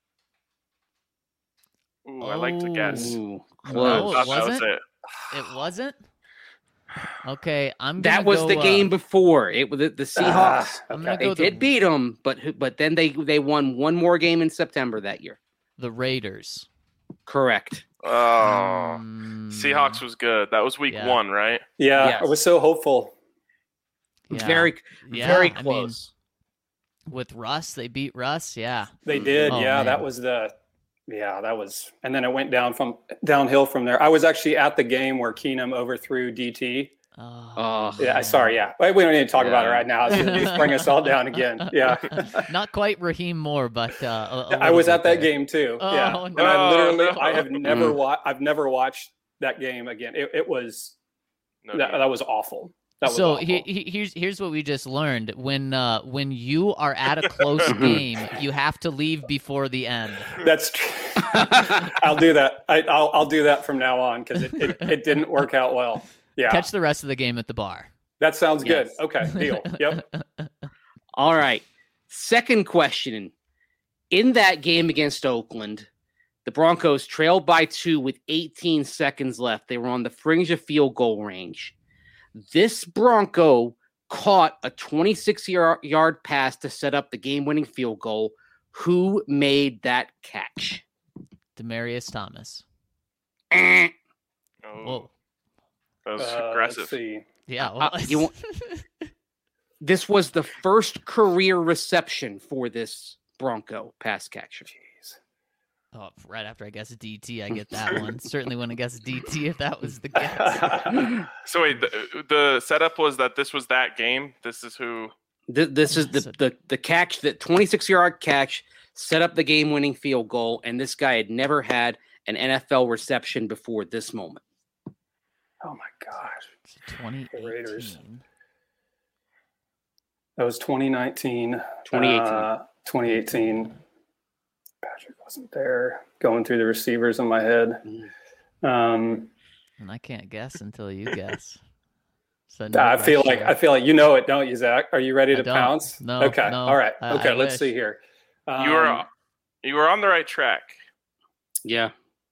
S1: Ooh, I like to guess.
S4: Ooh,
S1: I
S3: No,
S4: close.
S1: thought
S3: it
S1: that was
S3: wasn't?
S1: it.
S3: It wasn't. Okay, I'm. Gonna
S4: That was
S3: go,
S4: the game
S3: Uh,
S4: before. It was the, the Seahawks.
S5: Ah,
S3: I'm gonna
S5: okay.
S3: go
S4: They
S3: the,
S4: did beat them, but who- but then they they won one more game in September that year.
S3: the Raiders.
S4: Correct.
S1: Oh,
S3: Um,
S1: Seahawks was good. That was week
S3: yeah.
S1: one, right?
S5: Yeah,
S4: Yes.
S5: I was so hopeful.
S3: yeah.
S4: Very
S3: Yeah,
S4: very
S3: I mean,
S4: close.
S3: with Russ, they beat Russ. Yeah.
S5: They did.
S3: Oh,
S5: yeah,
S3: man.
S5: that was the. Yeah, that was, and then it went down from downhill from there. I was actually at the game where Keenum overthrew D T.
S3: Oh,
S4: Oh.
S5: Yeah,
S3: man.
S5: sorry. Yeah, Wait, we don't need to talk about it
S4: Yeah.
S5: right now. It's, it's bring us all down again. Yeah,
S3: Not quite Raheem Moore, but uh, a, a
S5: I
S3: little
S5: was
S3: bit
S5: at that
S3: there.
S5: game too.
S3: Oh,
S5: yeah,
S3: no.
S5: and I literally,
S1: Oh, no.
S5: I have never
S4: Mm.
S5: watched. I've never watched that game again. It, it was
S1: No
S5: that,
S1: need.
S5: that was awful. That was
S3: So
S5: awful.
S3: he, he, here's here's what we just learned. When uh, when you are at a close
S5: Mm-hmm.
S3: game, you have to leave before the end.
S5: That's true. I'll do that. I, I'll I'll do that from now on because it, it it didn't work out well. Yeah,
S3: Catch the rest of the game at the bar.
S5: that sounds good.
S4: Yes.
S5: Okay, deal. Yep.
S4: All right. Second question. In that game against Oakland, the Broncos trailed by two with eighteen seconds left. They were on the fringe of field goal range. This Bronco caught a twenty-six yard pass to set up the game-winning field goal. Who made that catch?
S3: Demarius Thomas.
S4: Eh.
S1: Oh,
S3: Whoa.
S1: that was
S5: Uh,
S1: aggressive.
S5: Let's see.
S3: Yeah.
S4: Uh,
S3: Well,
S4: you want- This was the first career reception for this Bronco pass catcher.
S5: Jeez.
S3: oh, right after I guess D T, I get that one. Certainly wouldn't have guessed D T if that was the guess.
S1: So wait, the, the setup was that this was that game. This is who.
S4: Th- This is the, the the catch, that twenty-six yard catch set up the game winning field goal, and this guy had never had an N F L reception before this moment.
S5: Oh my gosh.
S3: twenty
S5: Raiders.
S3: eighteen.
S5: That was twenty nineteen.
S4: twenty eighteen.
S5: Uh, twenty eighteen. Patrick wasn't there. Going through the receivers in my head. Um,
S3: And I can't guess until you guess. So
S5: I feel like I feel like you know it, don't you, Zach? Are you ready
S3: I
S5: to
S3: don't.
S5: pounce?
S3: No,
S5: Okay.
S3: no.
S5: All right.
S3: I-
S5: Okay.
S3: I
S5: let's
S3: wish.
S5: see here. Um,
S1: You were you were on the right track.
S4: Yeah.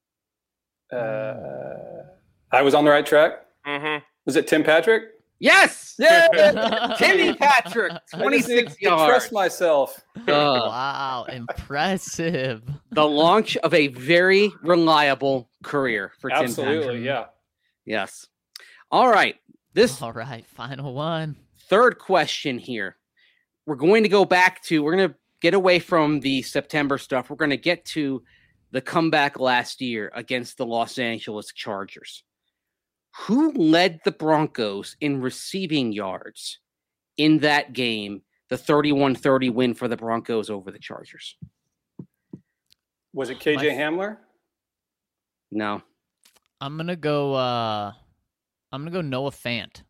S5: Uh, I was on the right track.
S1: Mm-hmm.
S5: Was it Tim Patrick?
S4: Yes.
S5: Yeah.
S4: Timmy Patrick,
S5: I just need
S4: twenty-six
S5: to trust
S4: yards.
S5: myself.
S4: Uh,
S3: Wow, impressive.
S4: the launch of a very reliable career for Tim
S5: Absolutely.
S4: Patrick.
S5: Yeah.
S4: Yes. All right. This
S3: All right, final one.
S4: third question here. We're going to go back to, we're going to get away from the September stuff. We're going to get to the comeback last year against the Los Angeles Chargers. Who led the Broncos in receiving yards in that game, the thirty-one thirty win for the Broncos over the Chargers?
S5: Was it K J
S3: My-
S5: Hamler?
S4: No.
S3: I'm gonna go. Uh, I'm gonna go Noah Fant.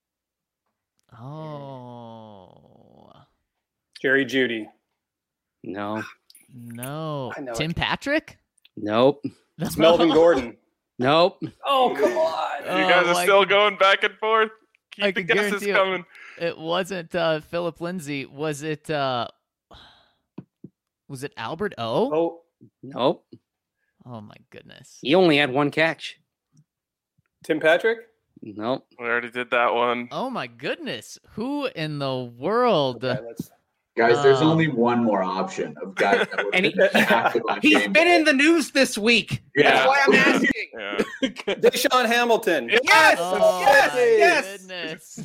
S3: Oh
S5: Jerry Judy.
S4: No.
S3: no,
S5: I know
S3: Tim
S5: it.
S3: Patrick.
S4: Nope.
S5: It's Melvin Gordon.
S4: Nope.
S5: Oh, come on.
S1: You
S3: Oh,
S1: guys are
S3: I
S1: still
S3: can-
S1: going back and forth. Keep
S3: I
S1: the
S3: can
S1: guesses
S3: guarantee you-
S1: coming.
S3: It wasn't uh, Philip Lindsay. Was it? Uh, was it Albert O?
S5: Oh,
S4: Nope.
S3: Oh my goodness.
S4: He only had one catch.
S5: Tim Patrick?
S4: Nope.
S1: We already did that one.
S3: Oh my goodness. Who in the world?
S5: Okay, let's...
S6: Guys, there's
S3: Um,
S6: only one more option of guys that were
S4: And he-
S6: active on
S4: He's
S6: game
S4: been
S6: day.
S4: in the news this week.
S1: Yeah.
S4: That's why I'm asking.
S1: Yeah.
S5: Deshaun Hamilton.
S4: Yes,
S3: Oh
S4: yes,
S3: my
S4: yes.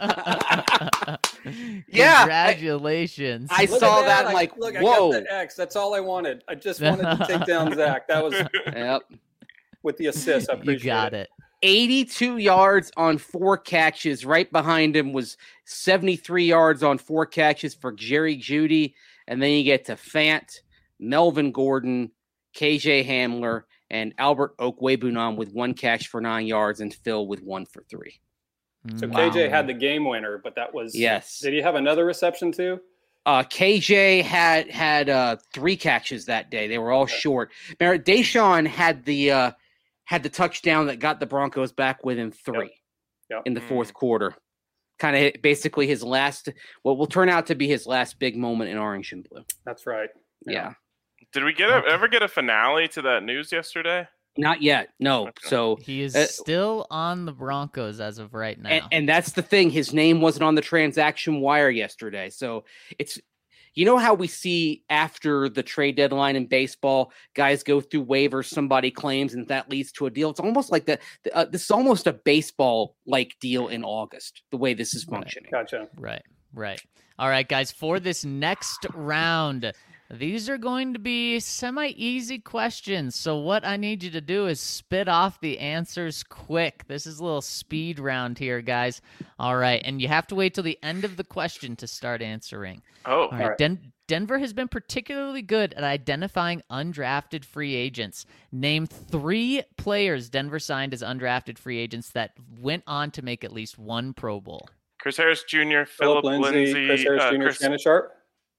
S3: goodness.
S4: Yeah, I-
S3: Congratulations.
S4: I
S5: Look
S4: saw
S5: at
S4: that.
S5: I-
S4: I'm like,
S5: look,
S4: whoa.
S5: I got the X. That's all I wanted. I just wanted to take down Zach. That was
S4: Yep.
S5: with the assist. I
S3: you
S5: appreciate
S3: got
S5: it.
S3: it.
S4: eighty-two yards on four catches. Right behind him was seventy-three yards on four catches for Jerry Jeudy. And then you get to Fant, Melvin Gordon, K J Hamler, and Albert Okwuegbunam with one catch for nine yards and Phil with one for three.
S5: So
S3: Wow.
S5: K J had the game winner, but that was
S4: Yes.
S5: Did he have another reception too?
S4: Uh, K J had had uh, three catches that day. They were all short. Remember, Deshaun had the uh, had the touchdown that got the Broncos back within three
S5: Yep.
S4: in the fourth quarter. Kind of basically his last, what will turn out to be his last big moment in orange and blue.
S5: That's right.
S4: Yeah.
S1: Did we get a, ever get a finale to that news yesterday?
S4: Not yet. No.
S1: Okay.
S4: So,
S3: He is
S4: Uh,
S3: still on the Broncos as of right now.
S4: and, and that's the thing. His name wasn't on the transaction wire yesterday. So it's, you know how we see after the trade deadline in baseball, guys go through waivers, somebody claims, and that leads to a deal. It's almost like the, the uh, this is almost a baseball like deal in August. The way this is
S3: Right.
S4: functioning.
S5: Gotcha.
S3: Right, right. All right, guys, for this next round, these are going to be semi-easy questions. So what I need you to do is spit off the answers quick. This is a little speed round here, guys. All right, and you have to wait till the end of the question to start answering.
S1: Oh,
S3: All right,
S5: right.
S3: Den- Denver has been particularly good at identifying undrafted free agents. Name three players Denver signed as undrafted free agents that went on to make at least one Pro Bowl.
S1: Chris Harris Junior,
S5: Philip
S1: Philip
S5: Lindsay,
S1: Lindsay,
S5: Chris Harris
S1: uh,
S5: Junior,
S1: Chris-
S5: Shannon Sharp.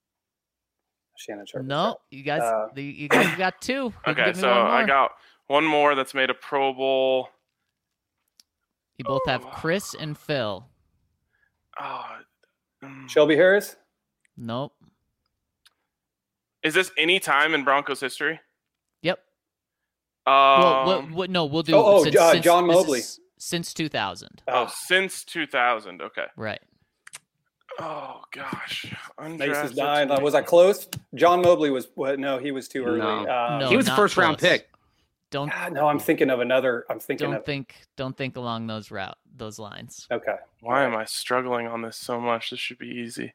S5: Shannon Sharp. is
S3: No, you guys,
S5: Uh,
S3: the, you guys got two. You can
S1: Okay,
S3: give me
S1: so
S3: one
S1: I
S3: more.
S1: got one more that's made a Pro Bowl.
S3: You both have Chris and Phil.
S1: Oh, mm.
S5: there. Shelby Harris.
S3: Nope.
S1: Is this any time in Broncos history?
S3: Yep.
S1: Um,
S3: Well, what, what, no, we'll do.
S5: Oh, oh,
S3: since,
S5: uh,
S3: since-
S5: John
S3: this
S5: Mobley.
S3: is since two thousand.
S1: oh,
S5: Oh,
S1: since two thousand. Okay.
S3: Right.
S1: Oh gosh.
S5: Mace is
S1: Undrafted
S5: dying.
S1: to
S5: Uh,
S1: make-
S5: was I close? John Mobley was. What? No, he was too early.
S4: No.
S5: Um,
S3: No.
S4: he was a
S3: not
S4: first round
S3: close.
S4: pick.
S3: Don't
S5: God, no, I'm thinking of another. I'm thinking
S3: don't
S5: of.
S3: think don't think along those route those lines.
S5: Okay.
S1: Why am I struggling on this so much? This should be easy.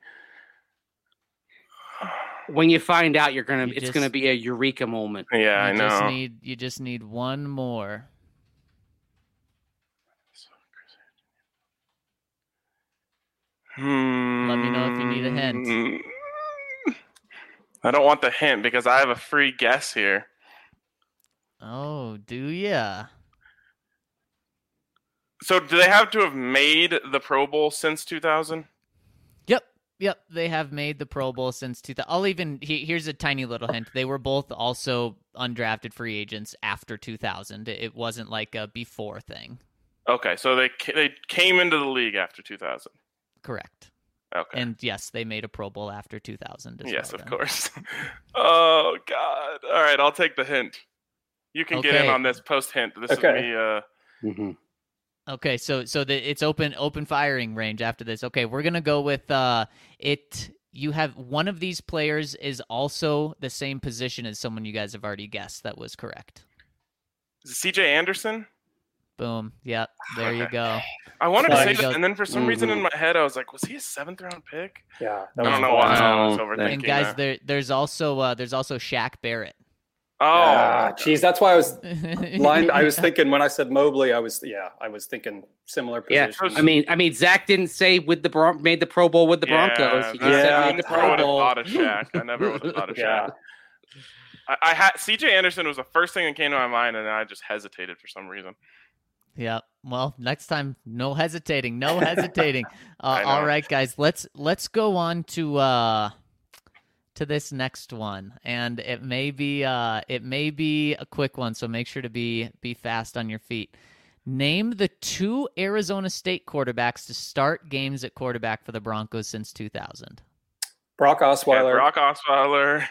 S4: When you find out, you're gonna,
S3: You
S4: it's
S3: just-
S4: gonna be a eureka moment.
S1: Yeah, I
S3: you
S1: know.
S3: just need you just need one more.
S1: Hmm.
S3: Let me know if you need a hint.
S1: I don't want the hint because I have a free guess here.
S3: Oh, do ya?
S1: So, do they have to have made the Pro Bowl since two thousand?
S3: Yep. Yep, they have made the Pro Bowl since two thousand. I'll even he, here's a tiny little hint. They were both also undrafted free agents after two thousand. It, it wasn't like a before thing.
S1: Okay, so they ca- they came into the league after two thousand.
S3: Correct.
S1: Okay.
S3: And yes, they made a Pro Bowl after two thousand as
S1: yes,
S3: well,
S1: of
S3: then.
S1: course. Oh God! All right, I'll take the hint. You can get in
S3: Okay.
S1: on this post hint. This
S5: Okay.
S1: is me. Uh,
S4: Mm-hmm.
S3: Okay, so so the, it's open open firing range after this. Okay, we're gonna go with uh it. You have one of these players is also the same position as someone you guys have already guessed. That was correct.
S1: is it C J Anderson?
S3: Boom. Yep. There you
S1: Okay.
S3: go.
S1: I wanted to
S5: There
S1: say
S3: you
S1: that,
S3: go.
S1: and then for some reason
S4: Mhm.
S1: in my head, I was like, "Was he a seventh round pick?"
S5: Yeah.
S1: I
S5: That
S1: don't
S5: was
S1: know why I was
S4: No,
S1: overthinking
S3: And guys,
S1: that.
S3: there there's also uh there's also Shaq Barrett.
S1: Oh,
S5: Ah, geez, that's why I was blind. I was
S3: Yeah.
S5: thinking when I said Mobley, I was yeah, I was thinking similar
S4: Yeah,
S5: position.
S4: I mean, I mean, Zach didn't say with the Bron- made the Pro Bowl with the Broncos. He just
S5: Yeah,
S4: said made the
S1: I
S4: Pro
S1: would have
S4: Bowl.
S1: thought of Shaq. I never would have thought of
S5: yeah.
S1: Shaq. I, I had C J Anderson was the first thing that came to my mind, and I just hesitated for some reason.
S3: Yeah. Well, next time, no hesitating, no hesitating. Uh,
S1: I know.
S3: all right, guys, let's let's go on to uh, to this next one, and it may be uh, it may be a quick one, so make sure to be be fast on your feet. Name the two Arizona State quarterbacks to start games at quarterback for the Broncos since two thousand.
S5: Brock
S1: Yeah,
S5: Osweiler.
S1: Brock Osweiler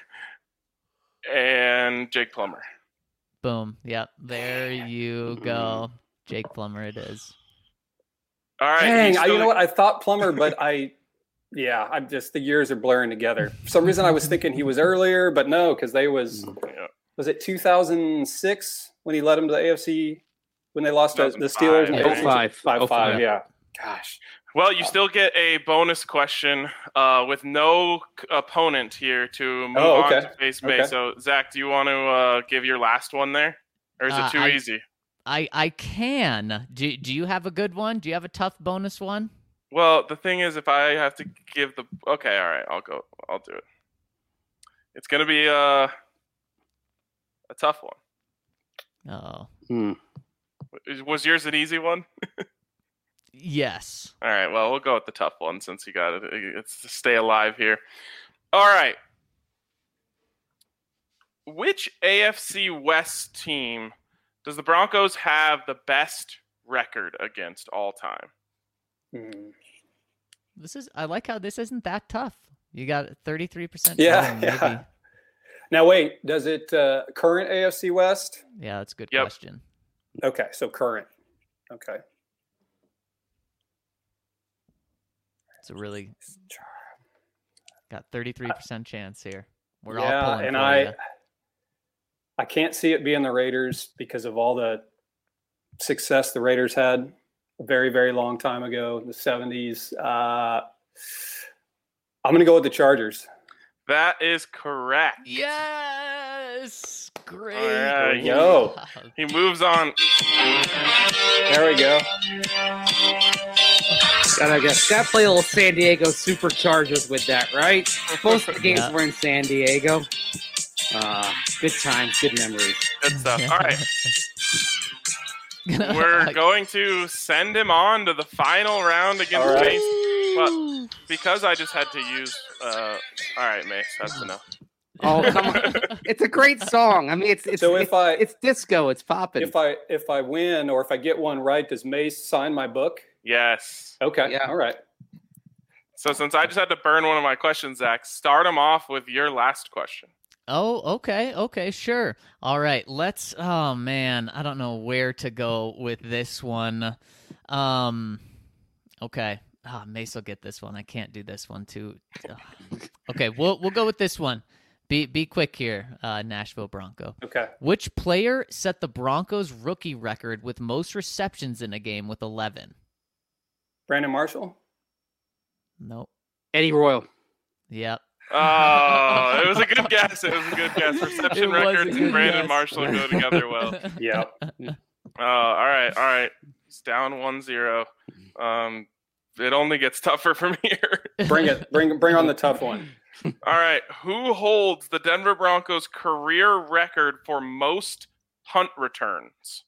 S1: and Jake Plummer.
S3: Boom. Yep. There you go. Jake Plummer it is.
S1: All right.
S5: Dang,
S1: still...
S5: I, you know what? I thought Plummer, but I, yeah, I'm just, the years are blurring together. For some reason I was thinking he was earlier, but no, because they was,
S1: Yeah.
S5: was it two thousand six when he led them to the A F C, when they lost to the Steelers? in the
S4: oh five.
S5: five,
S4: oh five.
S5: yeah. Gosh.
S1: Well, you still get a bonus question uh, with no c- opponent here to move
S5: Oh, okay.
S1: on to face May.
S5: Okay.
S1: So, Zach, do you want to uh, give your last one there? Or is
S3: Uh,
S1: it too
S3: I-
S1: easy?
S3: I I can. Do Do you have a good one? Do you have a tough bonus one?
S1: Well, the thing is, if I have to give the... Okay, all right, I'll go. I'll do it. It's going to be uh, a tough one.
S3: Oh,
S4: Hmm.
S1: Was yours an easy one?
S3: yes.
S1: All right, well, we'll go with the tough one since you got it. It's to stay alive here. All right. Which A F C West team does the Broncos have the best record against all time?
S5: Hmm.
S3: This is. I like how this isn't that tough. You got thirty-three percent.
S5: Yeah, yeah. Now, wait, does it uh, current A F C West?
S3: Yeah, that's a good
S1: Yep.
S3: question.
S5: Okay, so current. Okay.
S3: It's a really got thirty-three percent chance here. We're
S5: yeah,
S3: all pulling
S5: and
S3: for
S5: I,
S3: ya.
S5: I can't see it being the Raiders because of all the success the Raiders had a very, very long time ago, in the seventies. Uh, I'm going to go with the Chargers.
S1: That is correct.
S3: Yes, great.
S1: All right,
S5: Yo.
S1: He moves on.
S5: There we go.
S4: Gotta, gotta, gotta play a little San Diego Superchargers with that, right? Both the games
S3: Yeah.
S4: were in San Diego. Uh, good times, good memories.
S1: Good stuff. All right. We're going to send him on to the final round against
S5: All right.
S1: Mace. But because I just had to use... Uh, all right, Mace, that's enough.
S4: Oh, come on. It's a great song. I mean, it's it's
S5: So if
S4: it's,
S5: I-
S4: it's disco. It's popping.
S5: If I if I win or if I get one right, does Mace sign my book?
S1: Yes.
S5: Okay.
S4: Yeah.
S5: All right.
S1: So since I just had to burn one of my questions, Zach, start him off with your last question.
S3: Oh, okay, okay, sure. All right, let's. Oh man, I don't know where to go with this one. Um, okay. Ah, Mace will get this one. I can't do this one too. Ugh. Okay, we'll we'll go with this one. Be be quick here, uh, Nashville Bronco.
S5: Okay.
S3: Which player set the Broncos rookie record with most receptions in a game with eleven?
S5: Brandon Marshall.
S3: Nope.
S4: Eddie Royal.
S3: Yep.
S1: Oh, it was a good guess. It was a good guess. Reception
S3: It was a
S1: records and
S3: good
S1: Brandon
S3: guess.
S1: Marshall go together well.
S5: Yeah.
S1: Uh, all right, all right. It's down one zero. Um, it only gets tougher from here.
S5: Bring it. Bring bring on the tough one.
S1: All right. Who holds the Denver Broncos career record for most punt returns?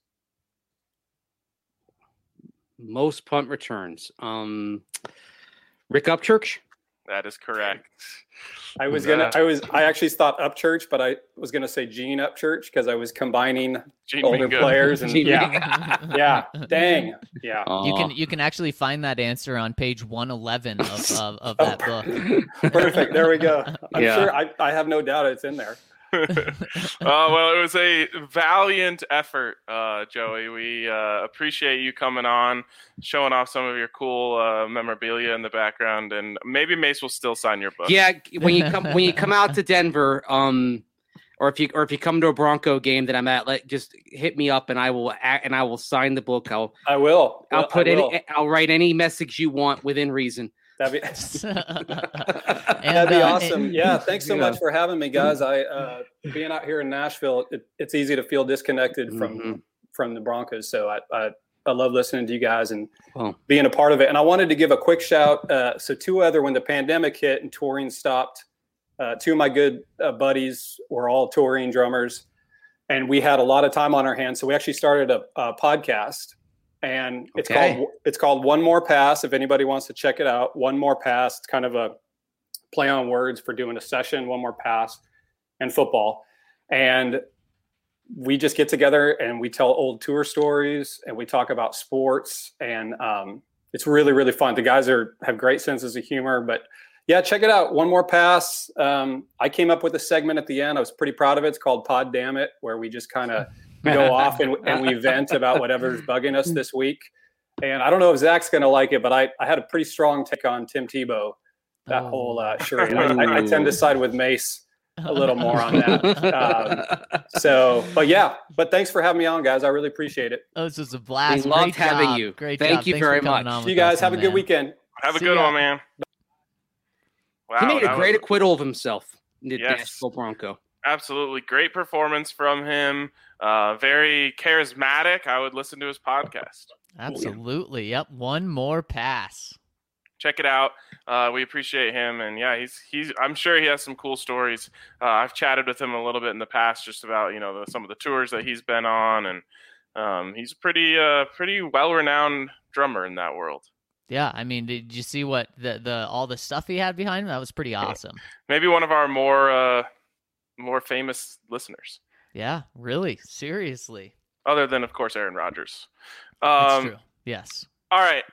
S4: Most punt returns. Um, Rick Upchurch.
S1: That is correct.
S5: I was gonna. I was. I actually thought Upchurch, but I was gonna say Gene Upchurch because I was combining
S1: Gene
S5: older
S1: Mingo.
S5: players and
S4: Gene
S5: yeah, yeah. Dang. Yeah.
S3: You
S4: Aw.
S3: can you can actually find that answer on page one eleven of of, of that book.
S5: Perfect. There we go. I'm
S4: Yeah.
S5: sure. I, I have no doubt it's in there.
S1: uh, well, it was a valiant effort, uh, Joey. We uh, appreciate you coming on, showing off some of your cool uh, memorabilia in the background, and maybe Mace will still sign your book.
S4: Yeah, when you come when you come out to Denver, um, or if you or if you come to a Bronco game that I'm at, let just hit me up and I will a- and I will sign the book. I'll
S5: I will.
S4: I'll
S5: Well,
S4: put
S5: I will.
S4: any I'll write any message you want within reason.
S5: That'd be,
S3: And,
S5: that'd be
S3: uh,
S5: awesome.
S3: and-
S5: Yeah. Thanks so
S4: Yeah.
S5: much for having me, guys. I uh, being out here in Nashville, it, it's easy to feel disconnected from
S4: Mhm.
S5: from the Broncos. So I, I I love listening to you guys and
S4: Well,
S5: being a part of it. And I wanted to give a quick shout. Uh, so two other, when the pandemic hit and touring stopped, uh, two of my good uh, buddies were all touring drummers, and we had a lot of time on our hands. So we actually started a, a podcast, and it's
S4: Okay.
S5: called it's called One More Pass. If anybody wants to check it out, One More Pass. It's kind of a play on words for doing a session, One More Pass, and football. And we just get together and we tell old tour stories and we talk about sports, and um, it's really, really fun. The guys are have great senses of humor, but yeah, check it out. One More Pass. Um, I came up with a segment at the end. I was pretty proud of it. It's called Pod Damn It, where we just kind of go off and, and we vent about whatever's bugging us this week. And I don't know if Zach's going to like it, but I, I had a pretty strong take on Tim Tebow, that oh. whole uh, charade. I, I, I tend to side with Mace a little more on that. Um, so, but yeah, but thanks for having me on, guys. I really appreciate it.
S3: Oh, this was a blast.
S4: We loved
S3: Great
S4: having
S3: job.
S4: you.
S3: Great
S4: Thank
S3: job.
S4: you
S3: Thanks
S4: very
S3: much.
S5: You guys have a good
S3: man.
S5: weekend.
S1: Have a
S2: See
S1: good
S2: ya.
S1: one, man. Wow,
S4: he made a great
S1: was...
S4: acquittal of himself. The
S1: yes.
S4: Nashville Bronco.
S1: Absolutely. Great performance from him. Uh, very charismatic. I would listen to his podcast.
S3: Absolutely. Yep. One more pass.
S1: Check it out. Uh, we appreciate him. And yeah, he's, he's, I'm sure he has some cool stories. Uh, I've chatted with him a little bit in the past, just about, you know, the, some of the tours that he's been on. And um, he's a pretty, uh, pretty well-renowned drummer in that world.
S3: Yeah, I mean, did you see what the the all the stuff he had behind him? That was pretty awesome.
S1: Maybe one of our more uh, more famous listeners.
S3: Yeah, really, seriously.
S1: Other than, of course, Aaron Rodgers. Um,
S3: That's true. Yes.
S1: All right.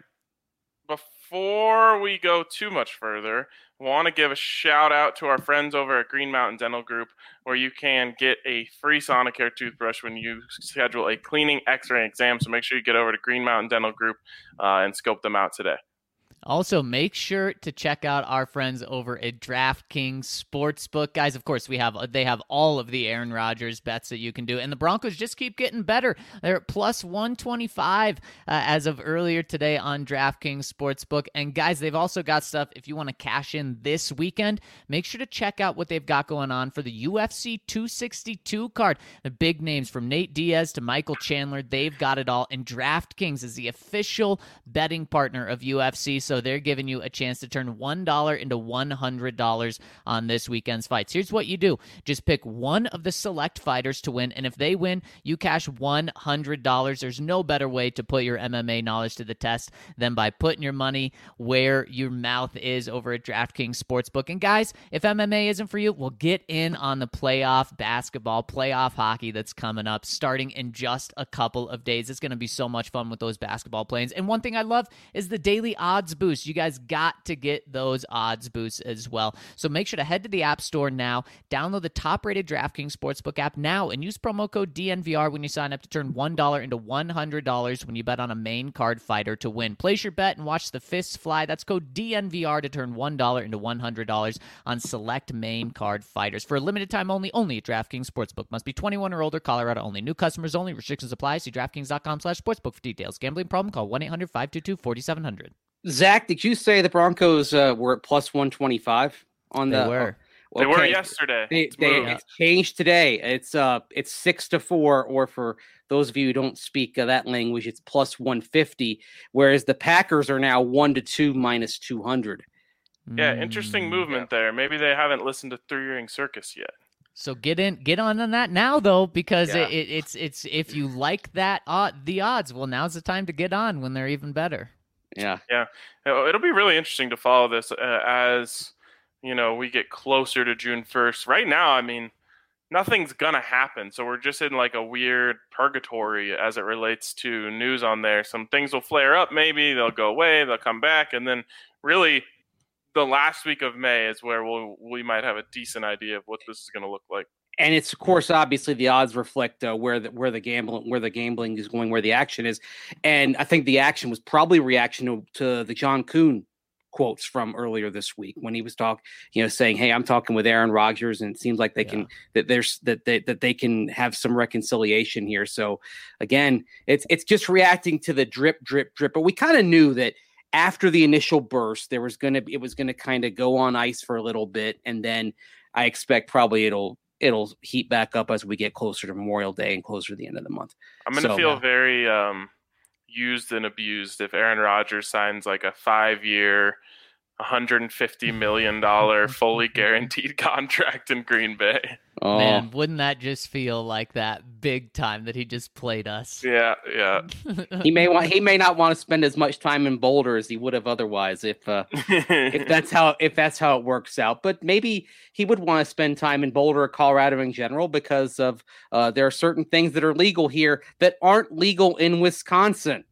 S1: Before we go too much further, I want to give a shout out to our friends over at Green Mountain Dental Group, where you can get a free Sonicare toothbrush when you schedule a cleaning, x-ray, exam. So make sure you get over to Green Mountain Dental Group uh, and scope them out today.
S3: Also, make sure to check out our friends over at DraftKings Sportsbook. Guys, of course, we have they have all of the Aaron Rodgers bets that you can do, and the Broncos just keep getting better. They're at plus one twenty-five uh, as of earlier today on DraftKings Sportsbook. And guys, they've also got stuff if you want to cash in this weekend. Make sure to check out what they've got going on for the U F C two sixty-two card. The big names from Nate Diaz to Michael Chandler, they've got it all. And DraftKings is the official betting partner of U F C. So they're giving you a chance to turn one dollar into one hundred dollars on this weekend's fights. Here's what you do. Just pick one of the select fighters to win, and if they win, you cash one hundred dollars. There's no better way to put your M M A knowledge to the test than by putting your money where your mouth is over at DraftKings Sportsbook. And guys, if M M A isn't for you, well, get in on the playoff basketball, playoff hockey that's coming up starting in just a couple of days. It's going to be so much fun with those basketball plays. And one thing I love is the daily odds boost. You guys got to get those odds boosts as well. So make sure to head to the App Store now, download the top-rated DraftKings Sportsbook app now, and use promo code D N V R when you sign up to turn one dollar into one hundred dollars when you bet on a main card fighter to win. Place your bet and watch the fists fly. That's code D N V R to turn one dollar into one hundred dollars on select main card fighters. For a limited time only, only at DraftKings Sportsbook. Must be twenty-one or older, Colorado only. New customers only. Restrictions apply. See DraftKings.com slash sportsbook for details. Gambling problem? Call one eight hundred five two two four seven zero zero.
S4: Zach, did you say the Broncos uh, were at plus one twenty-five on
S3: They
S4: the?
S3: were.
S1: They
S4: Okay.
S1: were yesterday.
S4: They,
S1: It's
S4: they
S1: moved.
S4: it's changed today. It's uh it's six to four, or for those of you who don't speak uh, that language, it's plus one fifty. Whereas the Packers are now one to two minus two hundred.
S1: Yeah, interesting
S3: Mm.
S1: movement there. Maybe they haven't listened to Three Ring Circus yet.
S3: So get in, get on on that now though, because
S1: Yeah.
S3: it, it, it's it's if you like that uh, the odds, well, now's the time to get on when they're even better.
S4: Yeah.
S1: Yeah, it'll be really interesting to follow this uh, as you know we get closer to June first. Right now, I mean, nothing's gonna happen, so we're just in like a weird purgatory as it relates to news on there. Some things will flare up, maybe they'll go away, they'll come back, and then really the last week of May is where we'll we might have a decent idea of what this is gonna look like.
S4: And it's, of course, obviously the odds reflect uh, where the where the gambling where the gambling is going, where the action is, and I think the action was probably reaction to, to the John Kuhn quotes from earlier this week when he was talking, you know, saying, "Hey, I'm talking with Aaron Rodgers, and it seems like they
S3: Yeah.
S4: can that there's that they that they can have some reconciliation here." So again, it's it's just reacting to the drip, drip, drip. But we kind of knew that after the initial burst, there was gonna it was gonna kind of go on ice for a little bit, and then I expect probably it'll. It'll heat back up as we get closer to Memorial Day and closer to the end of the month.
S1: I'm gonna
S4: So,
S1: feel
S4: yeah.
S1: very um, used and abused if Aaron Rodgers signs like a five-year, one hundred fifty million dollars fully guaranteed contract in Green Bay.
S4: Oh,
S3: Man, wouldn't that just feel like that big time that he just played us?
S1: Yeah, yeah.
S4: he may want he may not want to spend as much time in Boulder as he would have otherwise if uh, if that's how if that's how it works out. But maybe he would want to spend time in Boulder or Colorado in general because of uh, there are certain things that are legal here that aren't legal in Wisconsin.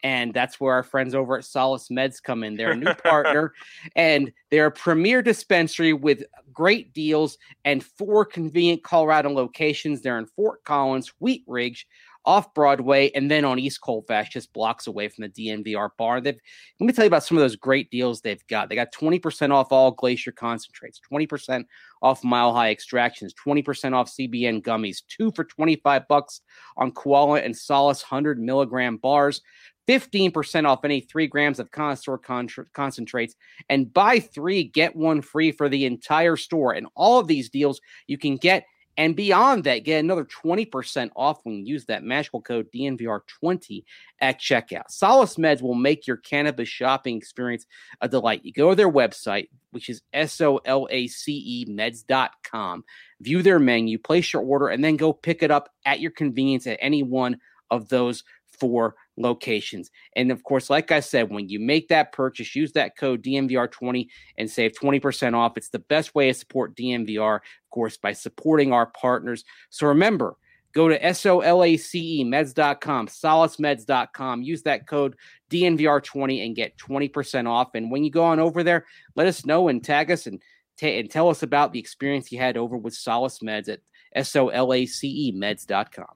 S4: And that's where our friends over at Solace Meds come in. They're a new partner, and they're a premier dispensary with great deals and four convenient Colorado locations. They're in Fort Collins, Wheat Ridge, off Broadway, and then on East Colfax, just blocks away from the D N V R bar. They've, let me tell you about some of those great deals they've got. They got twenty percent off all Glacier concentrates, twenty percent off Mile High extractions, twenty percent off C B N gummies, two for twenty-five bucks on Koala and Solace one hundred milligram bars, fifteen percent off any three grams of connoisseur con- concentrates, and buy three, get one free for the entire store. And all of these deals you can get, and beyond that, get another twenty percent off when you use that magical code D N V R twenty at checkout. Solace Meds will make your cannabis shopping experience a delight. You go to their website, which is S O L A C E meds dot com, view their menu, place your order, and then go pick it up at your convenience at any one of those four locations. And of course, like I said, when you make that purchase, use that code D N V R twenty and save twenty percent off. It's the best way to support D N V R, of course, by supporting our partners. So remember, go to S O L A C E meds dot com, solace meds dot com, use that code D N V R twenty and get twenty percent off. And when you go on over there, let us know and tag us and, t- and tell us about the experience you had over with Solace Meds at S O L A C E meds dot com.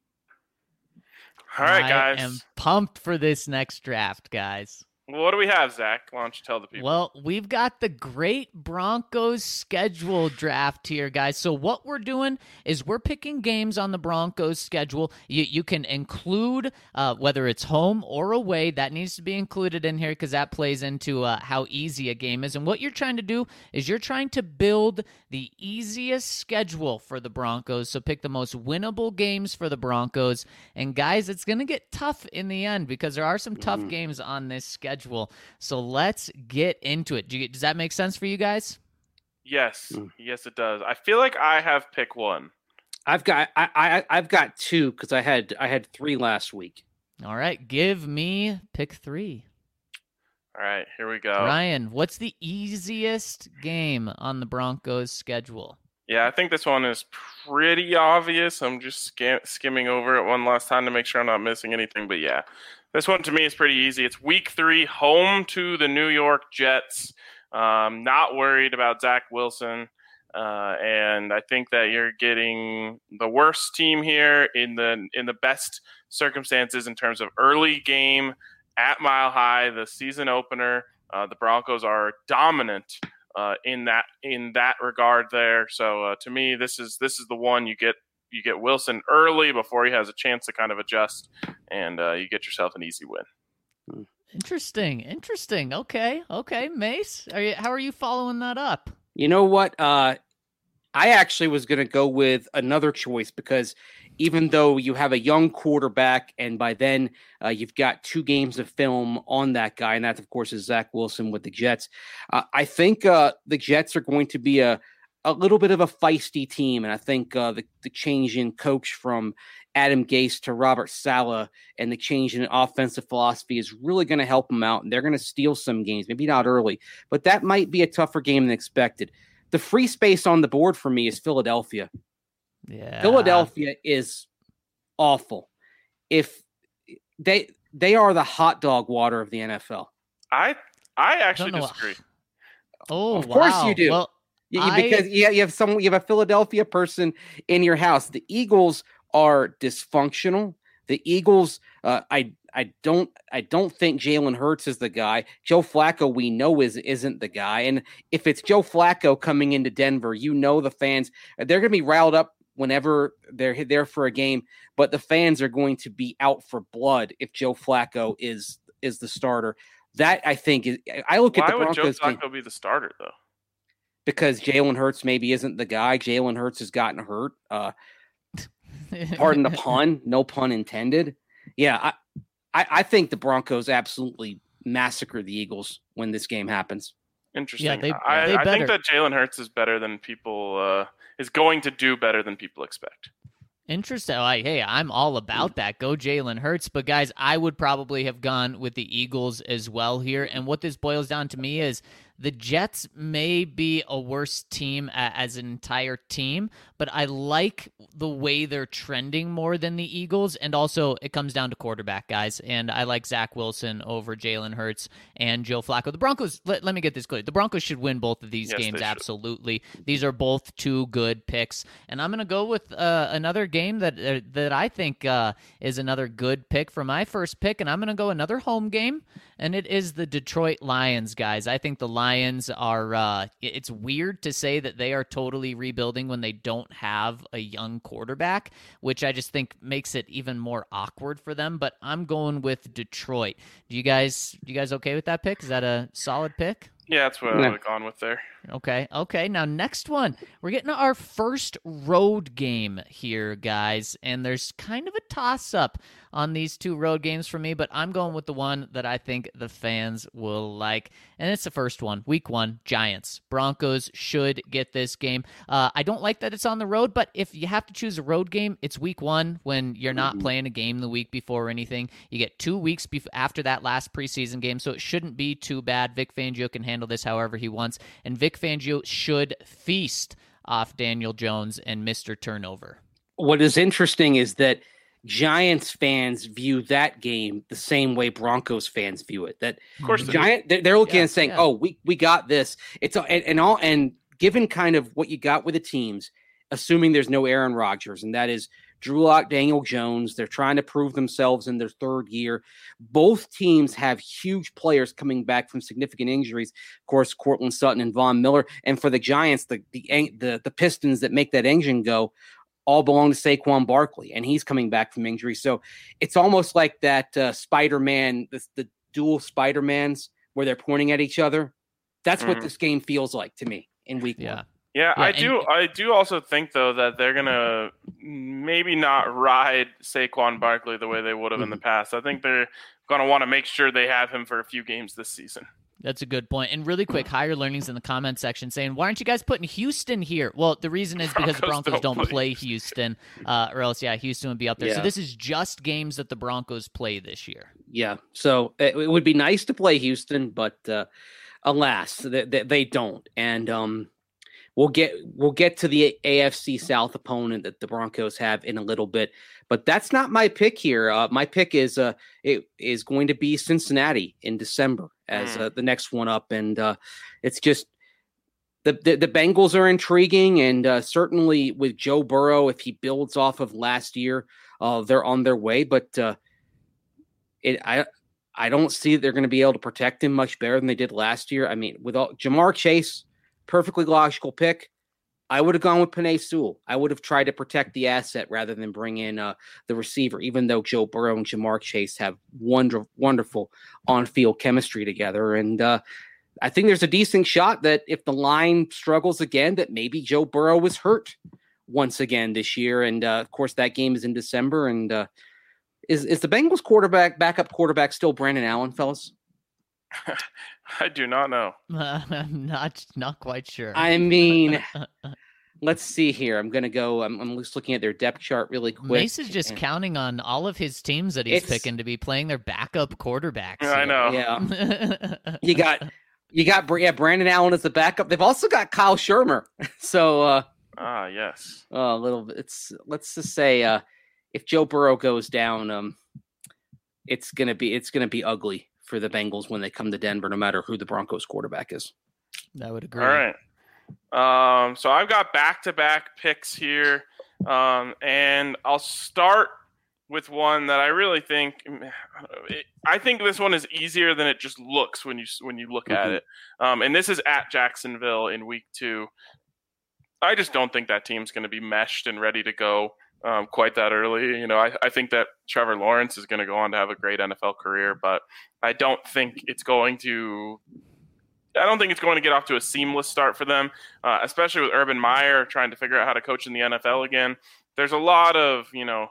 S1: All right, guys.
S3: I am pumped for this next draft, guys.
S1: What do we have, Zach? Why don't you tell the people?
S3: Well, we've got the great Broncos schedule draft here, guys. So what we're doing is we're picking games on the Broncos schedule. You, you can include uh, whether it's home or away. That needs to be included in here because that plays into uh, how easy a game is. And what you're trying to do is you're trying to build the easiest schedule for the Broncos. So pick the most winnable games for the Broncos. And guys, it's going to get tough in the end because there are some tough
S4: Mm-hmm.
S3: games on this schedule. So let's get into it. Do you, does that make sense for you guys?
S1: Yes,
S4: Mm.
S1: yes, it does. I feel like I have pick one.
S4: I've got I, I I've got two because I had I had three last week.
S3: All right, give me pick three.
S1: All right, here we go.
S3: Ryan, what's the easiest game on the Broncos schedule?
S1: Yeah, I think this one is pretty obvious. I'm just skim- skimming over it one last time to make sure I'm not missing anything. But yeah, this one to me is pretty easy. It's week three, home to the New York Jets. Um, not worried about Zach Wilson. Uh, and I think that you're getting the worst team here in the in the best circumstances in terms of early game at Mile High, the season opener. Uh, the Broncos are dominant uh, in that in that regard there. So uh, to me, this is this is the one you get you get Wilson early before he has a chance to kind of adjust, and uh, you get yourself an easy win.
S3: Interesting, interesting. Okay, okay, Mace, are you, how are you following that up?
S4: You know what? Uh, I actually was going to go with another choice because even though you have a young quarterback and by then uh, you've got two games of film on that guy, and that, of course, is Zach Wilson with the Jets, uh, I think uh, the Jets are going to be a, a little bit of a feisty team, and I think uh, the, the change in coach from Adam Gase to Robert Saleh and the change in offensive philosophy is really going to help them out, and they're going to steal some games, maybe not early, but that might be a tougher game than expected. The free space on the board for me is Philadelphia.
S3: Yeah,
S4: Philadelphia is awful. If they they are the hot dog water of the N F L.
S1: I I actually
S3: Don't know.
S1: disagree.
S3: Oh,
S4: Of course
S3: wow.
S4: you do.
S3: Well,
S4: You- you-
S3: I-
S4: because you you have someone, you have a Philadelphia person in your house. The Eagles are dysfunctional. The Eagles, uh, I I don't I don't think Jalen Hurts is the guy. Joe Flacco, we know is isn't the guy. And if it's Joe Flacco coming into Denver, you know the fans they're going to be riled up whenever they're there for a game. But the fans are going to be out for blood if Joe Flacco is is the starter. That I think is. I look
S1: Why
S4: at the
S1: would Joe
S4: Broncos game
S1: Flacco be the starter though?
S4: because Jalen Hurts maybe isn't the guy. Jalen Hurts has gotten hurt. Uh, pardon the pun, no pun intended. Yeah, I, I, I think the Broncos absolutely massacre the Eagles when this game happens.
S1: Interesting.
S3: they-
S1: I,
S3: they
S1: I think
S3: better.
S1: that Jalen Hurts is better than people uh, is going to do better than people expect.
S3: Interesting. Like, hey, I'm all about that. Go Jalen Hurts. But guys, I would probably have gone with the Eagles as well here. And what this boils down to me is the Jets may be a worse team a- as an entire team, but I like the way they're trending more than the Eagles. And also, it comes down to quarterback, guys. And I like Zach Wilson over Jalen Hurts and Joe Flacco. The Broncos, let, let me get this clear. The Broncos should win both of these
S1: Yes,
S3: games,
S1: they should.
S3: absolutely. These are both two good picks. And I'm going to go with uh, another game that uh, that I think uh, is another good pick for my first pick. And I'm going to go another home game. And it is the Detroit Lions, guys. I think the Lions are, uh, it's weird to say that they are totally rebuilding when they don't have a young quarterback, which I just think makes it even more awkward for them. But I'm going with Detroit. Do you guys, do you guys okay with that pick? Is that a solid pick?
S1: Yeah, that's what
S4: Yeah.
S1: I would have gone with there.
S3: Okay, okay. Now, next one. We're getting our first road game here, guys. And there's kind of a toss-up on these two road games for me, but I'm going with the one that I think the fans will like. And it's the first one, week one, Giants. Broncos should get this game. Uh, I don't like that it's on the road, but if you have to choose a road game, it's week one when you're not
S6: Mhm.
S3: playing a game the week before or anything. You get two weeks bef- after that last preseason game, so it shouldn't be too bad. Vic Fangio can handle this however he wants, and Vic Fangio should feast off Daniel Jones and Mister Turnover.
S4: What is interesting is that Giants fans view that game the same way Broncos fans view it. That
S1: Of course, they do.
S4: Giant, they're, they're looking
S3: Yeah,
S4: and saying,
S3: yeah.
S4: "Oh, we we got this." It's a- and, and all and given kind of what you got with the teams, assuming there's no Aaron Rodgers, and that is Drew Lock, Daniel Jones. They're trying to prove themselves in their third year. Both teams have huge players coming back from significant injuries. Of course, Cortland Sutton and Von Miller. And for the Giants, the the the, the pistons that make that engine go all belong to Saquon Barkley, and he's coming back from injury. So it's almost like that uh, Spider-Man, the, the dual Spider-Mans where they're pointing at each other. That's what
S1: Mhm.
S4: this game feels like to me in week
S3: Yeah.
S4: one.
S1: Yeah,
S3: Yeah,
S1: I
S3: and-
S1: do. I do also think though that they're gonna maybe not ride Saquon Barkley the way they would have in the past. I think they're gonna want to make sure they have him for a few games this season.
S3: That's a good point. And really quick, Higher Learning's in the comment section saying, why aren't you guys putting Houston here? Well, the reason is because the
S1: Broncos
S3: Broncos
S1: don't
S3: don't
S1: play
S3: play Houston, uh, or else, yeah, Houston would be up there. So
S4: Yeah.
S3: this is just games that the Broncos play this year.
S4: Yeah. So it, it would be nice to play Houston, but uh, alas, they, they, they don't. And um, we'll get we'll get to the A F C South opponent that the Broncos have in a little bit. But that's not my pick here. Uh, my pick is uh, it is going to be Cincinnati in December as
S1: Mm.
S4: uh, the next one up, and uh, it's just the, the the Bengals are intriguing, and uh, certainly with Joe Burrow, if he builds off of last year, uh, they're on their way. But uh, it I I don't see that they're going to be able to protect him much better than they did last year. I mean, with all, Jamar Chase, perfectly logical pick. I would have gone with Penei Sewell. I would have tried to protect the asset rather than bring in uh, the receiver, even though Joe Burrow and Jamar Chase have wonder, wonderful on-field chemistry together. And uh, I think there's a decent shot that if the line struggles again, that maybe Joe Burrow was hurt once again this year. And, uh, of course, that game is in December. And uh, is, is the Bengals quarterback, backup quarterback still Brandon Allen, fellas?
S1: I do not know.
S3: Uh, I'm not not quite sure.
S4: I mean, let's see here. I'm going to go. I'm, I'm just looking at their depth chart really quick.
S3: Mace is just
S4: and-
S3: counting on all of his teams that he's
S4: It's-
S3: picking to be playing their backup quarterbacks.
S1: I know.
S4: Yeah.
S3: know.
S4: You got, you got, Br- yeah, Brandon Allen as the backup. They've also got Kyle Shermer. So, uh,
S1: Ah, yes.
S4: a little bit. It's let's just say, uh, if Joe Burrow goes down, um, it's gonna be it's gonna be ugly for the Bengals when they come to Denver, no matter who the Broncos quarterback is.
S3: I would agree.
S1: All right. Um, so I've got back-to-back picks here, um, and I'll start with one that I really think. I think this one is easier than it just looks when you when you look at
S4: Mhm.
S1: it. Um, and this is at Jacksonville in Week Two. I just don't think that team's going to be meshed and ready to go um, quite that early. You know, I, I think that Trevor Lawrence is going to go on to have a great N F L career, but I don't think it's going to. I don't think it's going to get off to a seamless start for them, uh, especially with Urban Meyer trying to figure out how to coach in the N F L again. There's a lot of, you know,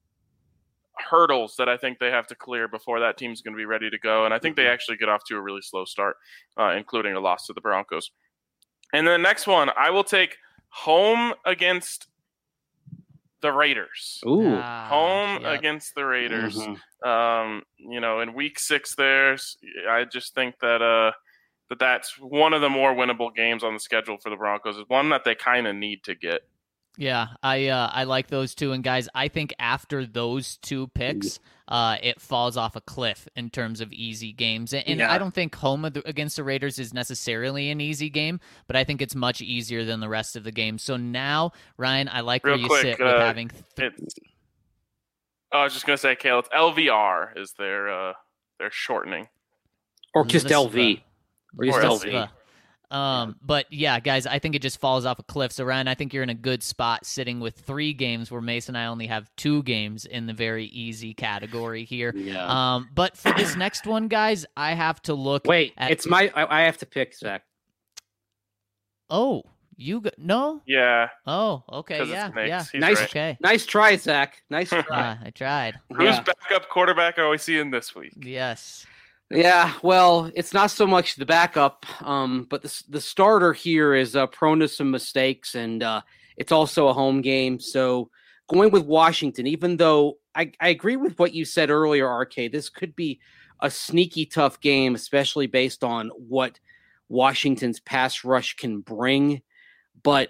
S1: hurdles that I think they have to clear before that team's going to be ready to go. And I think they actually get off to a really slow start, uh, including a loss to the Broncos. And then the next one, I will take home against the Raiders.
S4: Ooh.
S3: Ah,
S1: Home
S3: yep.
S1: against the Raiders.
S4: Mhm.
S1: Um, you know, in week six there, I just think that uh, that that's one of the more winnable games on the schedule for the Broncos. It's one that they kind of need to get.
S3: Yeah, I uh, I like those two. And guys, I think after those two picks, uh, it falls off a cliff in terms of easy games. And, and
S4: Yeah.
S3: I don't think home against the Raiders is necessarily an easy game, but I think it's much easier than the rest of the game. So now, Ryan, I like
S1: Real
S3: where you
S1: quick,
S3: sit
S1: uh,
S3: with having. Th-
S1: It's, I was just gonna say, Kale, it's L V R is their uh, their shortening.
S4: Or just
S3: Lisva.
S4: L V. Or just
S1: Or
S4: L
S1: L V.
S4: V.
S3: Um, but yeah, guys, I think it just falls off a cliff. So Ryan, I think you're in a good spot sitting with three games where Mason and I only have two games in the very easy category here.
S4: Yeah.
S3: Um, but for this next one, guys, I have to look.
S4: Wait,
S3: at,
S4: it's my. I, I have to pick, Zach.
S3: Oh, you go, no?
S1: Yeah,
S3: Oh, okay,
S1: because
S3: yeah,
S1: it's Knicks.
S3: yeah.
S1: He's
S4: Nice.
S1: right.
S3: Okay,
S4: Nice try, Zach. Nice try.
S3: uh, I tried.
S1: Whose
S4: Yeah.
S1: backup quarterback are we seeing this week?
S3: Yes.
S4: Yeah, well, it's not so much the backup, um, but the the starter here is uh, prone to some mistakes, and uh, it's also a home game. So going with Washington, even though I, I agree with what you said earlier, R K, this could be a sneaky tough game, especially based on what Washington's pass rush can bring. But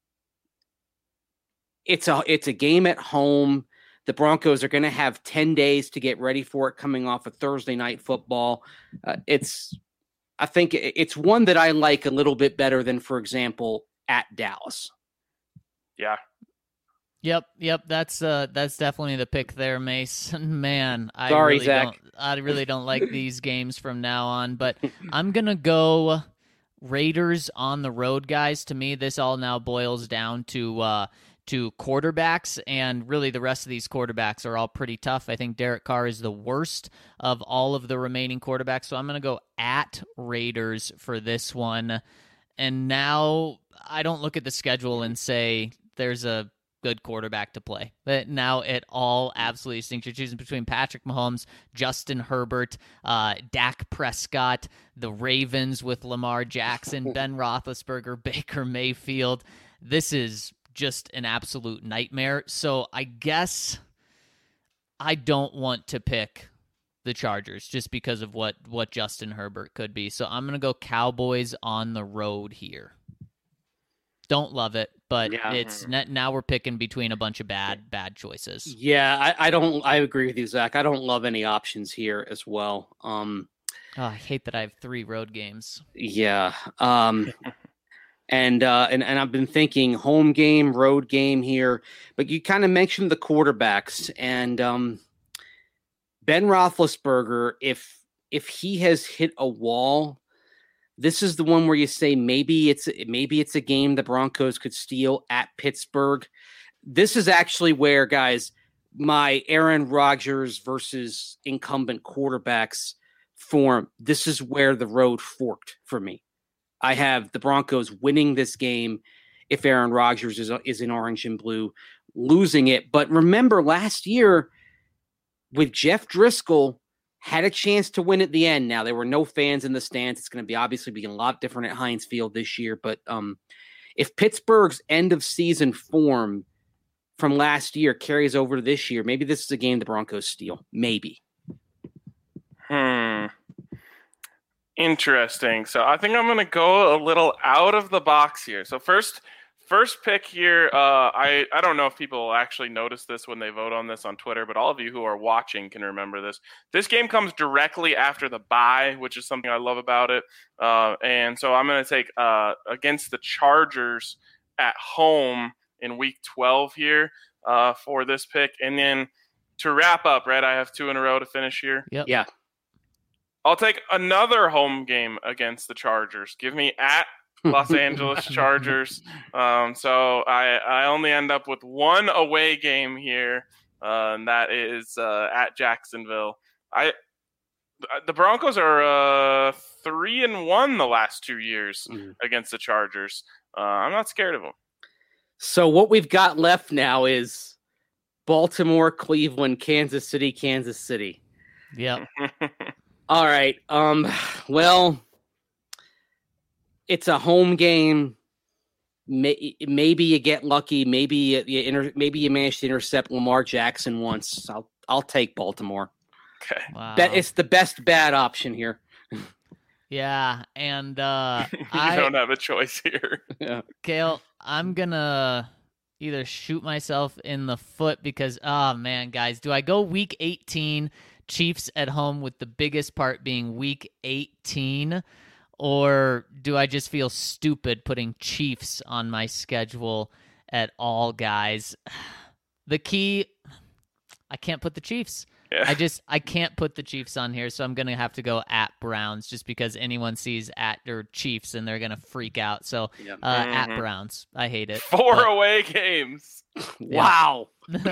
S4: it's a it's a game at home. The Broncos are going to have ten days to get ready for it coming off of Thursday night football. Uh, it's, I think it's one that I like a little bit better than, for example, at Dallas.
S1: Yeah,
S3: Yep, yep. That's uh, that's definitely the pick there, Mace. Man, I
S4: Sorry,
S3: really
S4: Zach.
S3: don't. I really don't like these games from now on. But I'm gonna go Raiders on the road, guys. To me, this all now boils down to uh, to quarterbacks, and really the rest of these quarterbacks are all pretty tough. I think Derek Carr is the worst of all of the remaining quarterbacks, so I'm going to go at Raiders for this one. And now I don't look at the schedule and say there's a good quarterback to play. But now it all absolutely stinks. You're choosing between Patrick Mahomes, Justin Herbert, uh, Dak Prescott, the Ravens with Lamar Jackson, Ben Roethlisberger, Baker Mayfield. This is just an absolute nightmare. So I guess I don't want to pick the Chargers just because of what, what Justin Herbert could be. So I'm going to go Cowboys on the road here. Don't love it, but
S4: Yeah.
S3: it's now we're picking between a bunch of bad, bad choices.
S4: Yeah, I, I don't. I agree with you, Zach. I don't love any options here as well. Um,
S3: Oh, I hate that I have three road games.
S4: yeah. Um, and uh, and and I've been thinking home game, road game here, but you kind of mentioned the quarterbacks and um, Ben Roethlisberger. If if he has hit a wall, this is the one where you say maybe it's maybe it's a game the Broncos could steal at Pittsburgh. This is actually where, guys, my Aaron Rodgers versus incumbent quarterbacks form. This is where the road forked for me. I have the Broncos winning this game if Aaron Rodgers is is in orange and blue, losing it. But remember, last year with Jeff Driscoll, had a chance to win at the end. Now, there were no fans in the stands. It's going to be obviously be a lot different at Heinz Field this year. But um, if Pittsburgh's end of season form from last year carries over to this year, maybe this is a game the Broncos steal. Maybe.
S1: Hmm. Interesting. So I think I'm going to go a little out of the box here. So first, first pick here. Uh, I I don't know if people actually notice this when they vote on this on Twitter, but all of you who are watching can remember this. This game comes directly after the bye, which is something I love about it. Uh, and so I'm going to take uh, against the Chargers at home in Week twelve here uh, for this pick, and then to wrap up, right? I have two in a row to finish here.
S3: Yep.
S4: Yeah.
S1: I'll take another home game against the Chargers. Give me at Los Angeles Chargers. Um, so I, I only end up with one away game here, uh, and that is uh, at Jacksonville. I the Broncos are uh, three and one the last two years
S4: Mhm.
S1: against the Chargers. Uh, I'm not scared of them.
S4: So what we've got left now is Baltimore, Cleveland, Kansas City, Kansas City.
S3: Yep.
S4: All right. Um, well, it's a home game. May, maybe you get lucky. Maybe you, you inter, maybe you manage to intercept Lamar Jackson once. I'll I'll take Baltimore.
S1: Okay.
S3: Wow.
S4: That it's the best bad option here.
S3: Yeah, and uh,
S1: you
S3: I
S1: don't have a choice here.
S4: Yeah.
S3: Kale, I'm gonna either shoot myself in the foot because, oh man, guys, do I go week eighteen, Chiefs at home with the biggest part being week eighteen, or do I just feel stupid putting Chiefs on my schedule at all, guys? The key, I can't put the Chiefs.
S1: Yeah.
S3: I just I can't put the Chiefs on here, so I'm gonna have to go at Browns just because anyone sees at or Chiefs and they're gonna freak out. So
S4: Yeah.
S3: uh,
S1: Mhm.
S3: at Browns, I hate it.
S1: Four
S3: but-
S1: away games.
S4: Wow.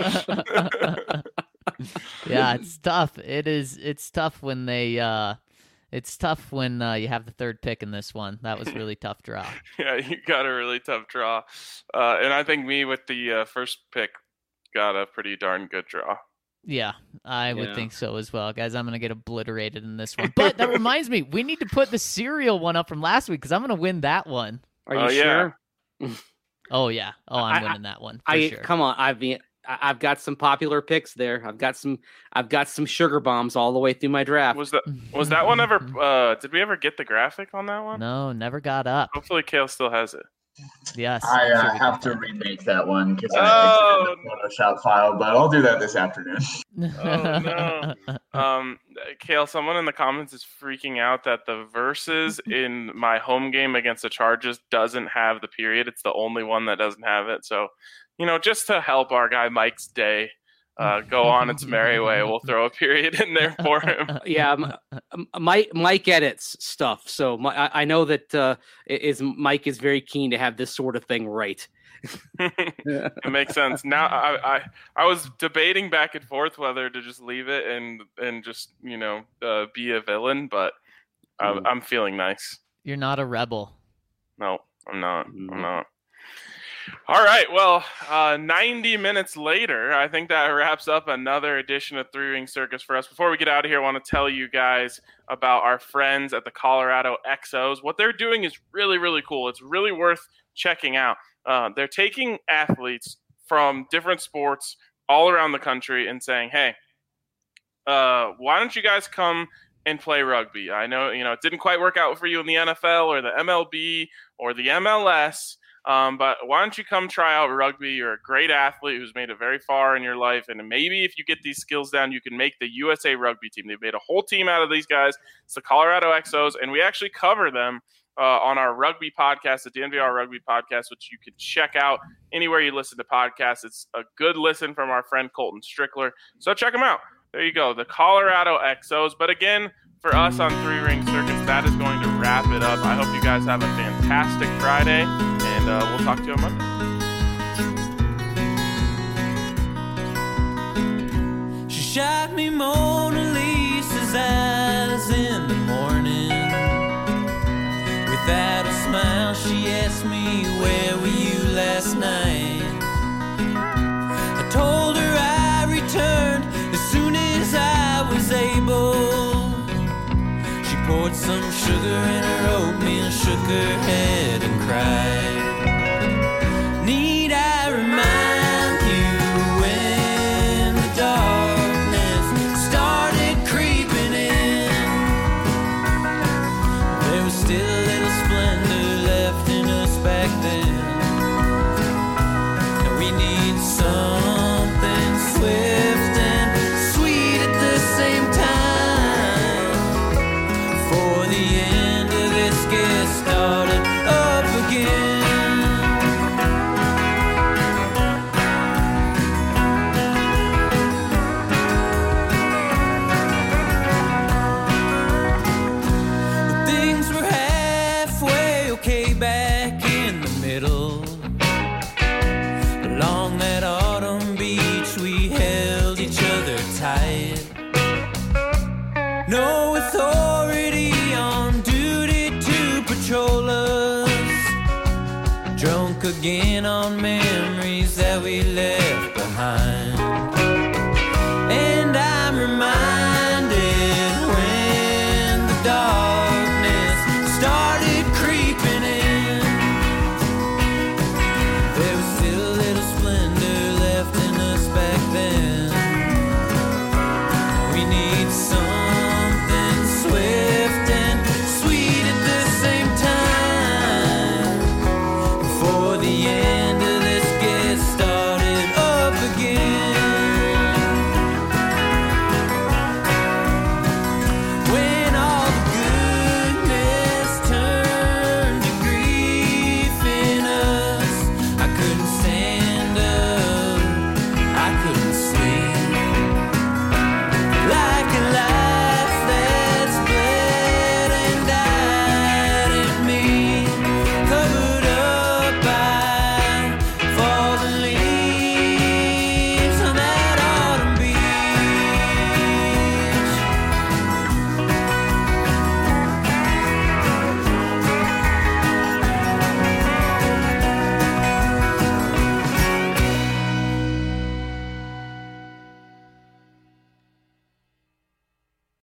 S3: Yeah, it's tough. It is. It's tough when they. Uh, it's tough when uh, you have the third pick in this one. That was really tough draw.
S1: Yeah, you got a really tough draw. Uh, and I think me with the uh, first pick got a pretty darn good draw.
S3: Yeah, I would
S4: Yeah.
S3: think so as well, guys. I'm gonna get obliterated in this one. But that reminds me, we need to put the cereal one up from last week because I'm gonna win that one.
S4: Are you
S1: Oh, yeah.
S4: sure?
S3: Oh yeah. Oh, I'm
S4: I- I-
S3: winning that one for
S4: I
S3: sure.
S4: come on. I've been, I- I've got some popular picks there. I've got some. I've got some sugar bombs all the way through my draft.
S1: Was that was that one ever? Uh, did we ever get the graphic on that one?
S3: No, never got up.
S1: Hopefully, Kale still has it.
S3: Yes.
S6: I
S3: I'm
S6: uh,
S3: sure we
S6: have
S3: can
S6: to remake that one because
S1: Oh,
S6: I it's in the Photoshop file, but I'll do that this afternoon.
S1: Oh, no. Um, Kale, someone in the comments is freaking out that the verses in my home game against the Chargers doesn't have the period. It's the only one that doesn't have it. So, you know, just to help our guy Mike's day uh, go on its merry way, we'll throw a period in there for him.
S4: Yeah, m- m- Mike Mike edits stuff, so my, I, I know that uh, is Mike is very keen to have this sort of thing right.
S1: It makes sense. Now, I, I I was debating back and forth whether to just leave it and and just you know uh, be a villain, but I,
S4: Mm.
S1: I'm feeling nice.
S3: You're not a rebel.
S1: No, I'm not.
S4: Mm.
S1: I'm not. All right. Well, uh, ninety minutes later, I think that wraps up another edition of Three Ring Circus for us. Before we get out of here, I want to tell you guys about our friends at the Colorado X Os. What they're doing is really, really cool. It's really worth checking out. Uh, they're taking athletes from different sports all around the country and saying, hey, uh, why don't you guys come and play rugby? I know, you know, it didn't quite work out for you in the N F L or the M L B or the M L S. Um, but why don't you come try out rugby? You're a great athlete who's made it very far in your life. And maybe if you get these skills down, you can make the U S A rugby team. They've made a whole team out of these guys. It's the Colorado X Os. And we actually cover them uh, on our rugby podcast, the D N V R Rugby Podcast, which you can check out anywhere you listen to podcasts. It's a good listen from our friend Colton Strickler. So check them out. There you go, the Colorado X Os. But again, for us on Three Ring Circus, that is going to wrap it up. I hope you guys have a fantastic Friday, and uh, we'll talk to you on Monday.
S7: She shot me Mona Lisa's eyes in the morning. Without a smile, she asked me, where were you last night? I told her I returned as soon as I was able. She poured some sugar in her oatmeal, shook her head and cried. Need I remind you when the darkness started creeping in? There was still a little splendor left in us back then. And we need something swift and sweet at the same time. For the end of this gets started up again. But things were halfway okay back in the middle. Along that autumn beach we held each other tight. No authority on duty to patrol us. Drunk again on memories that we left behind.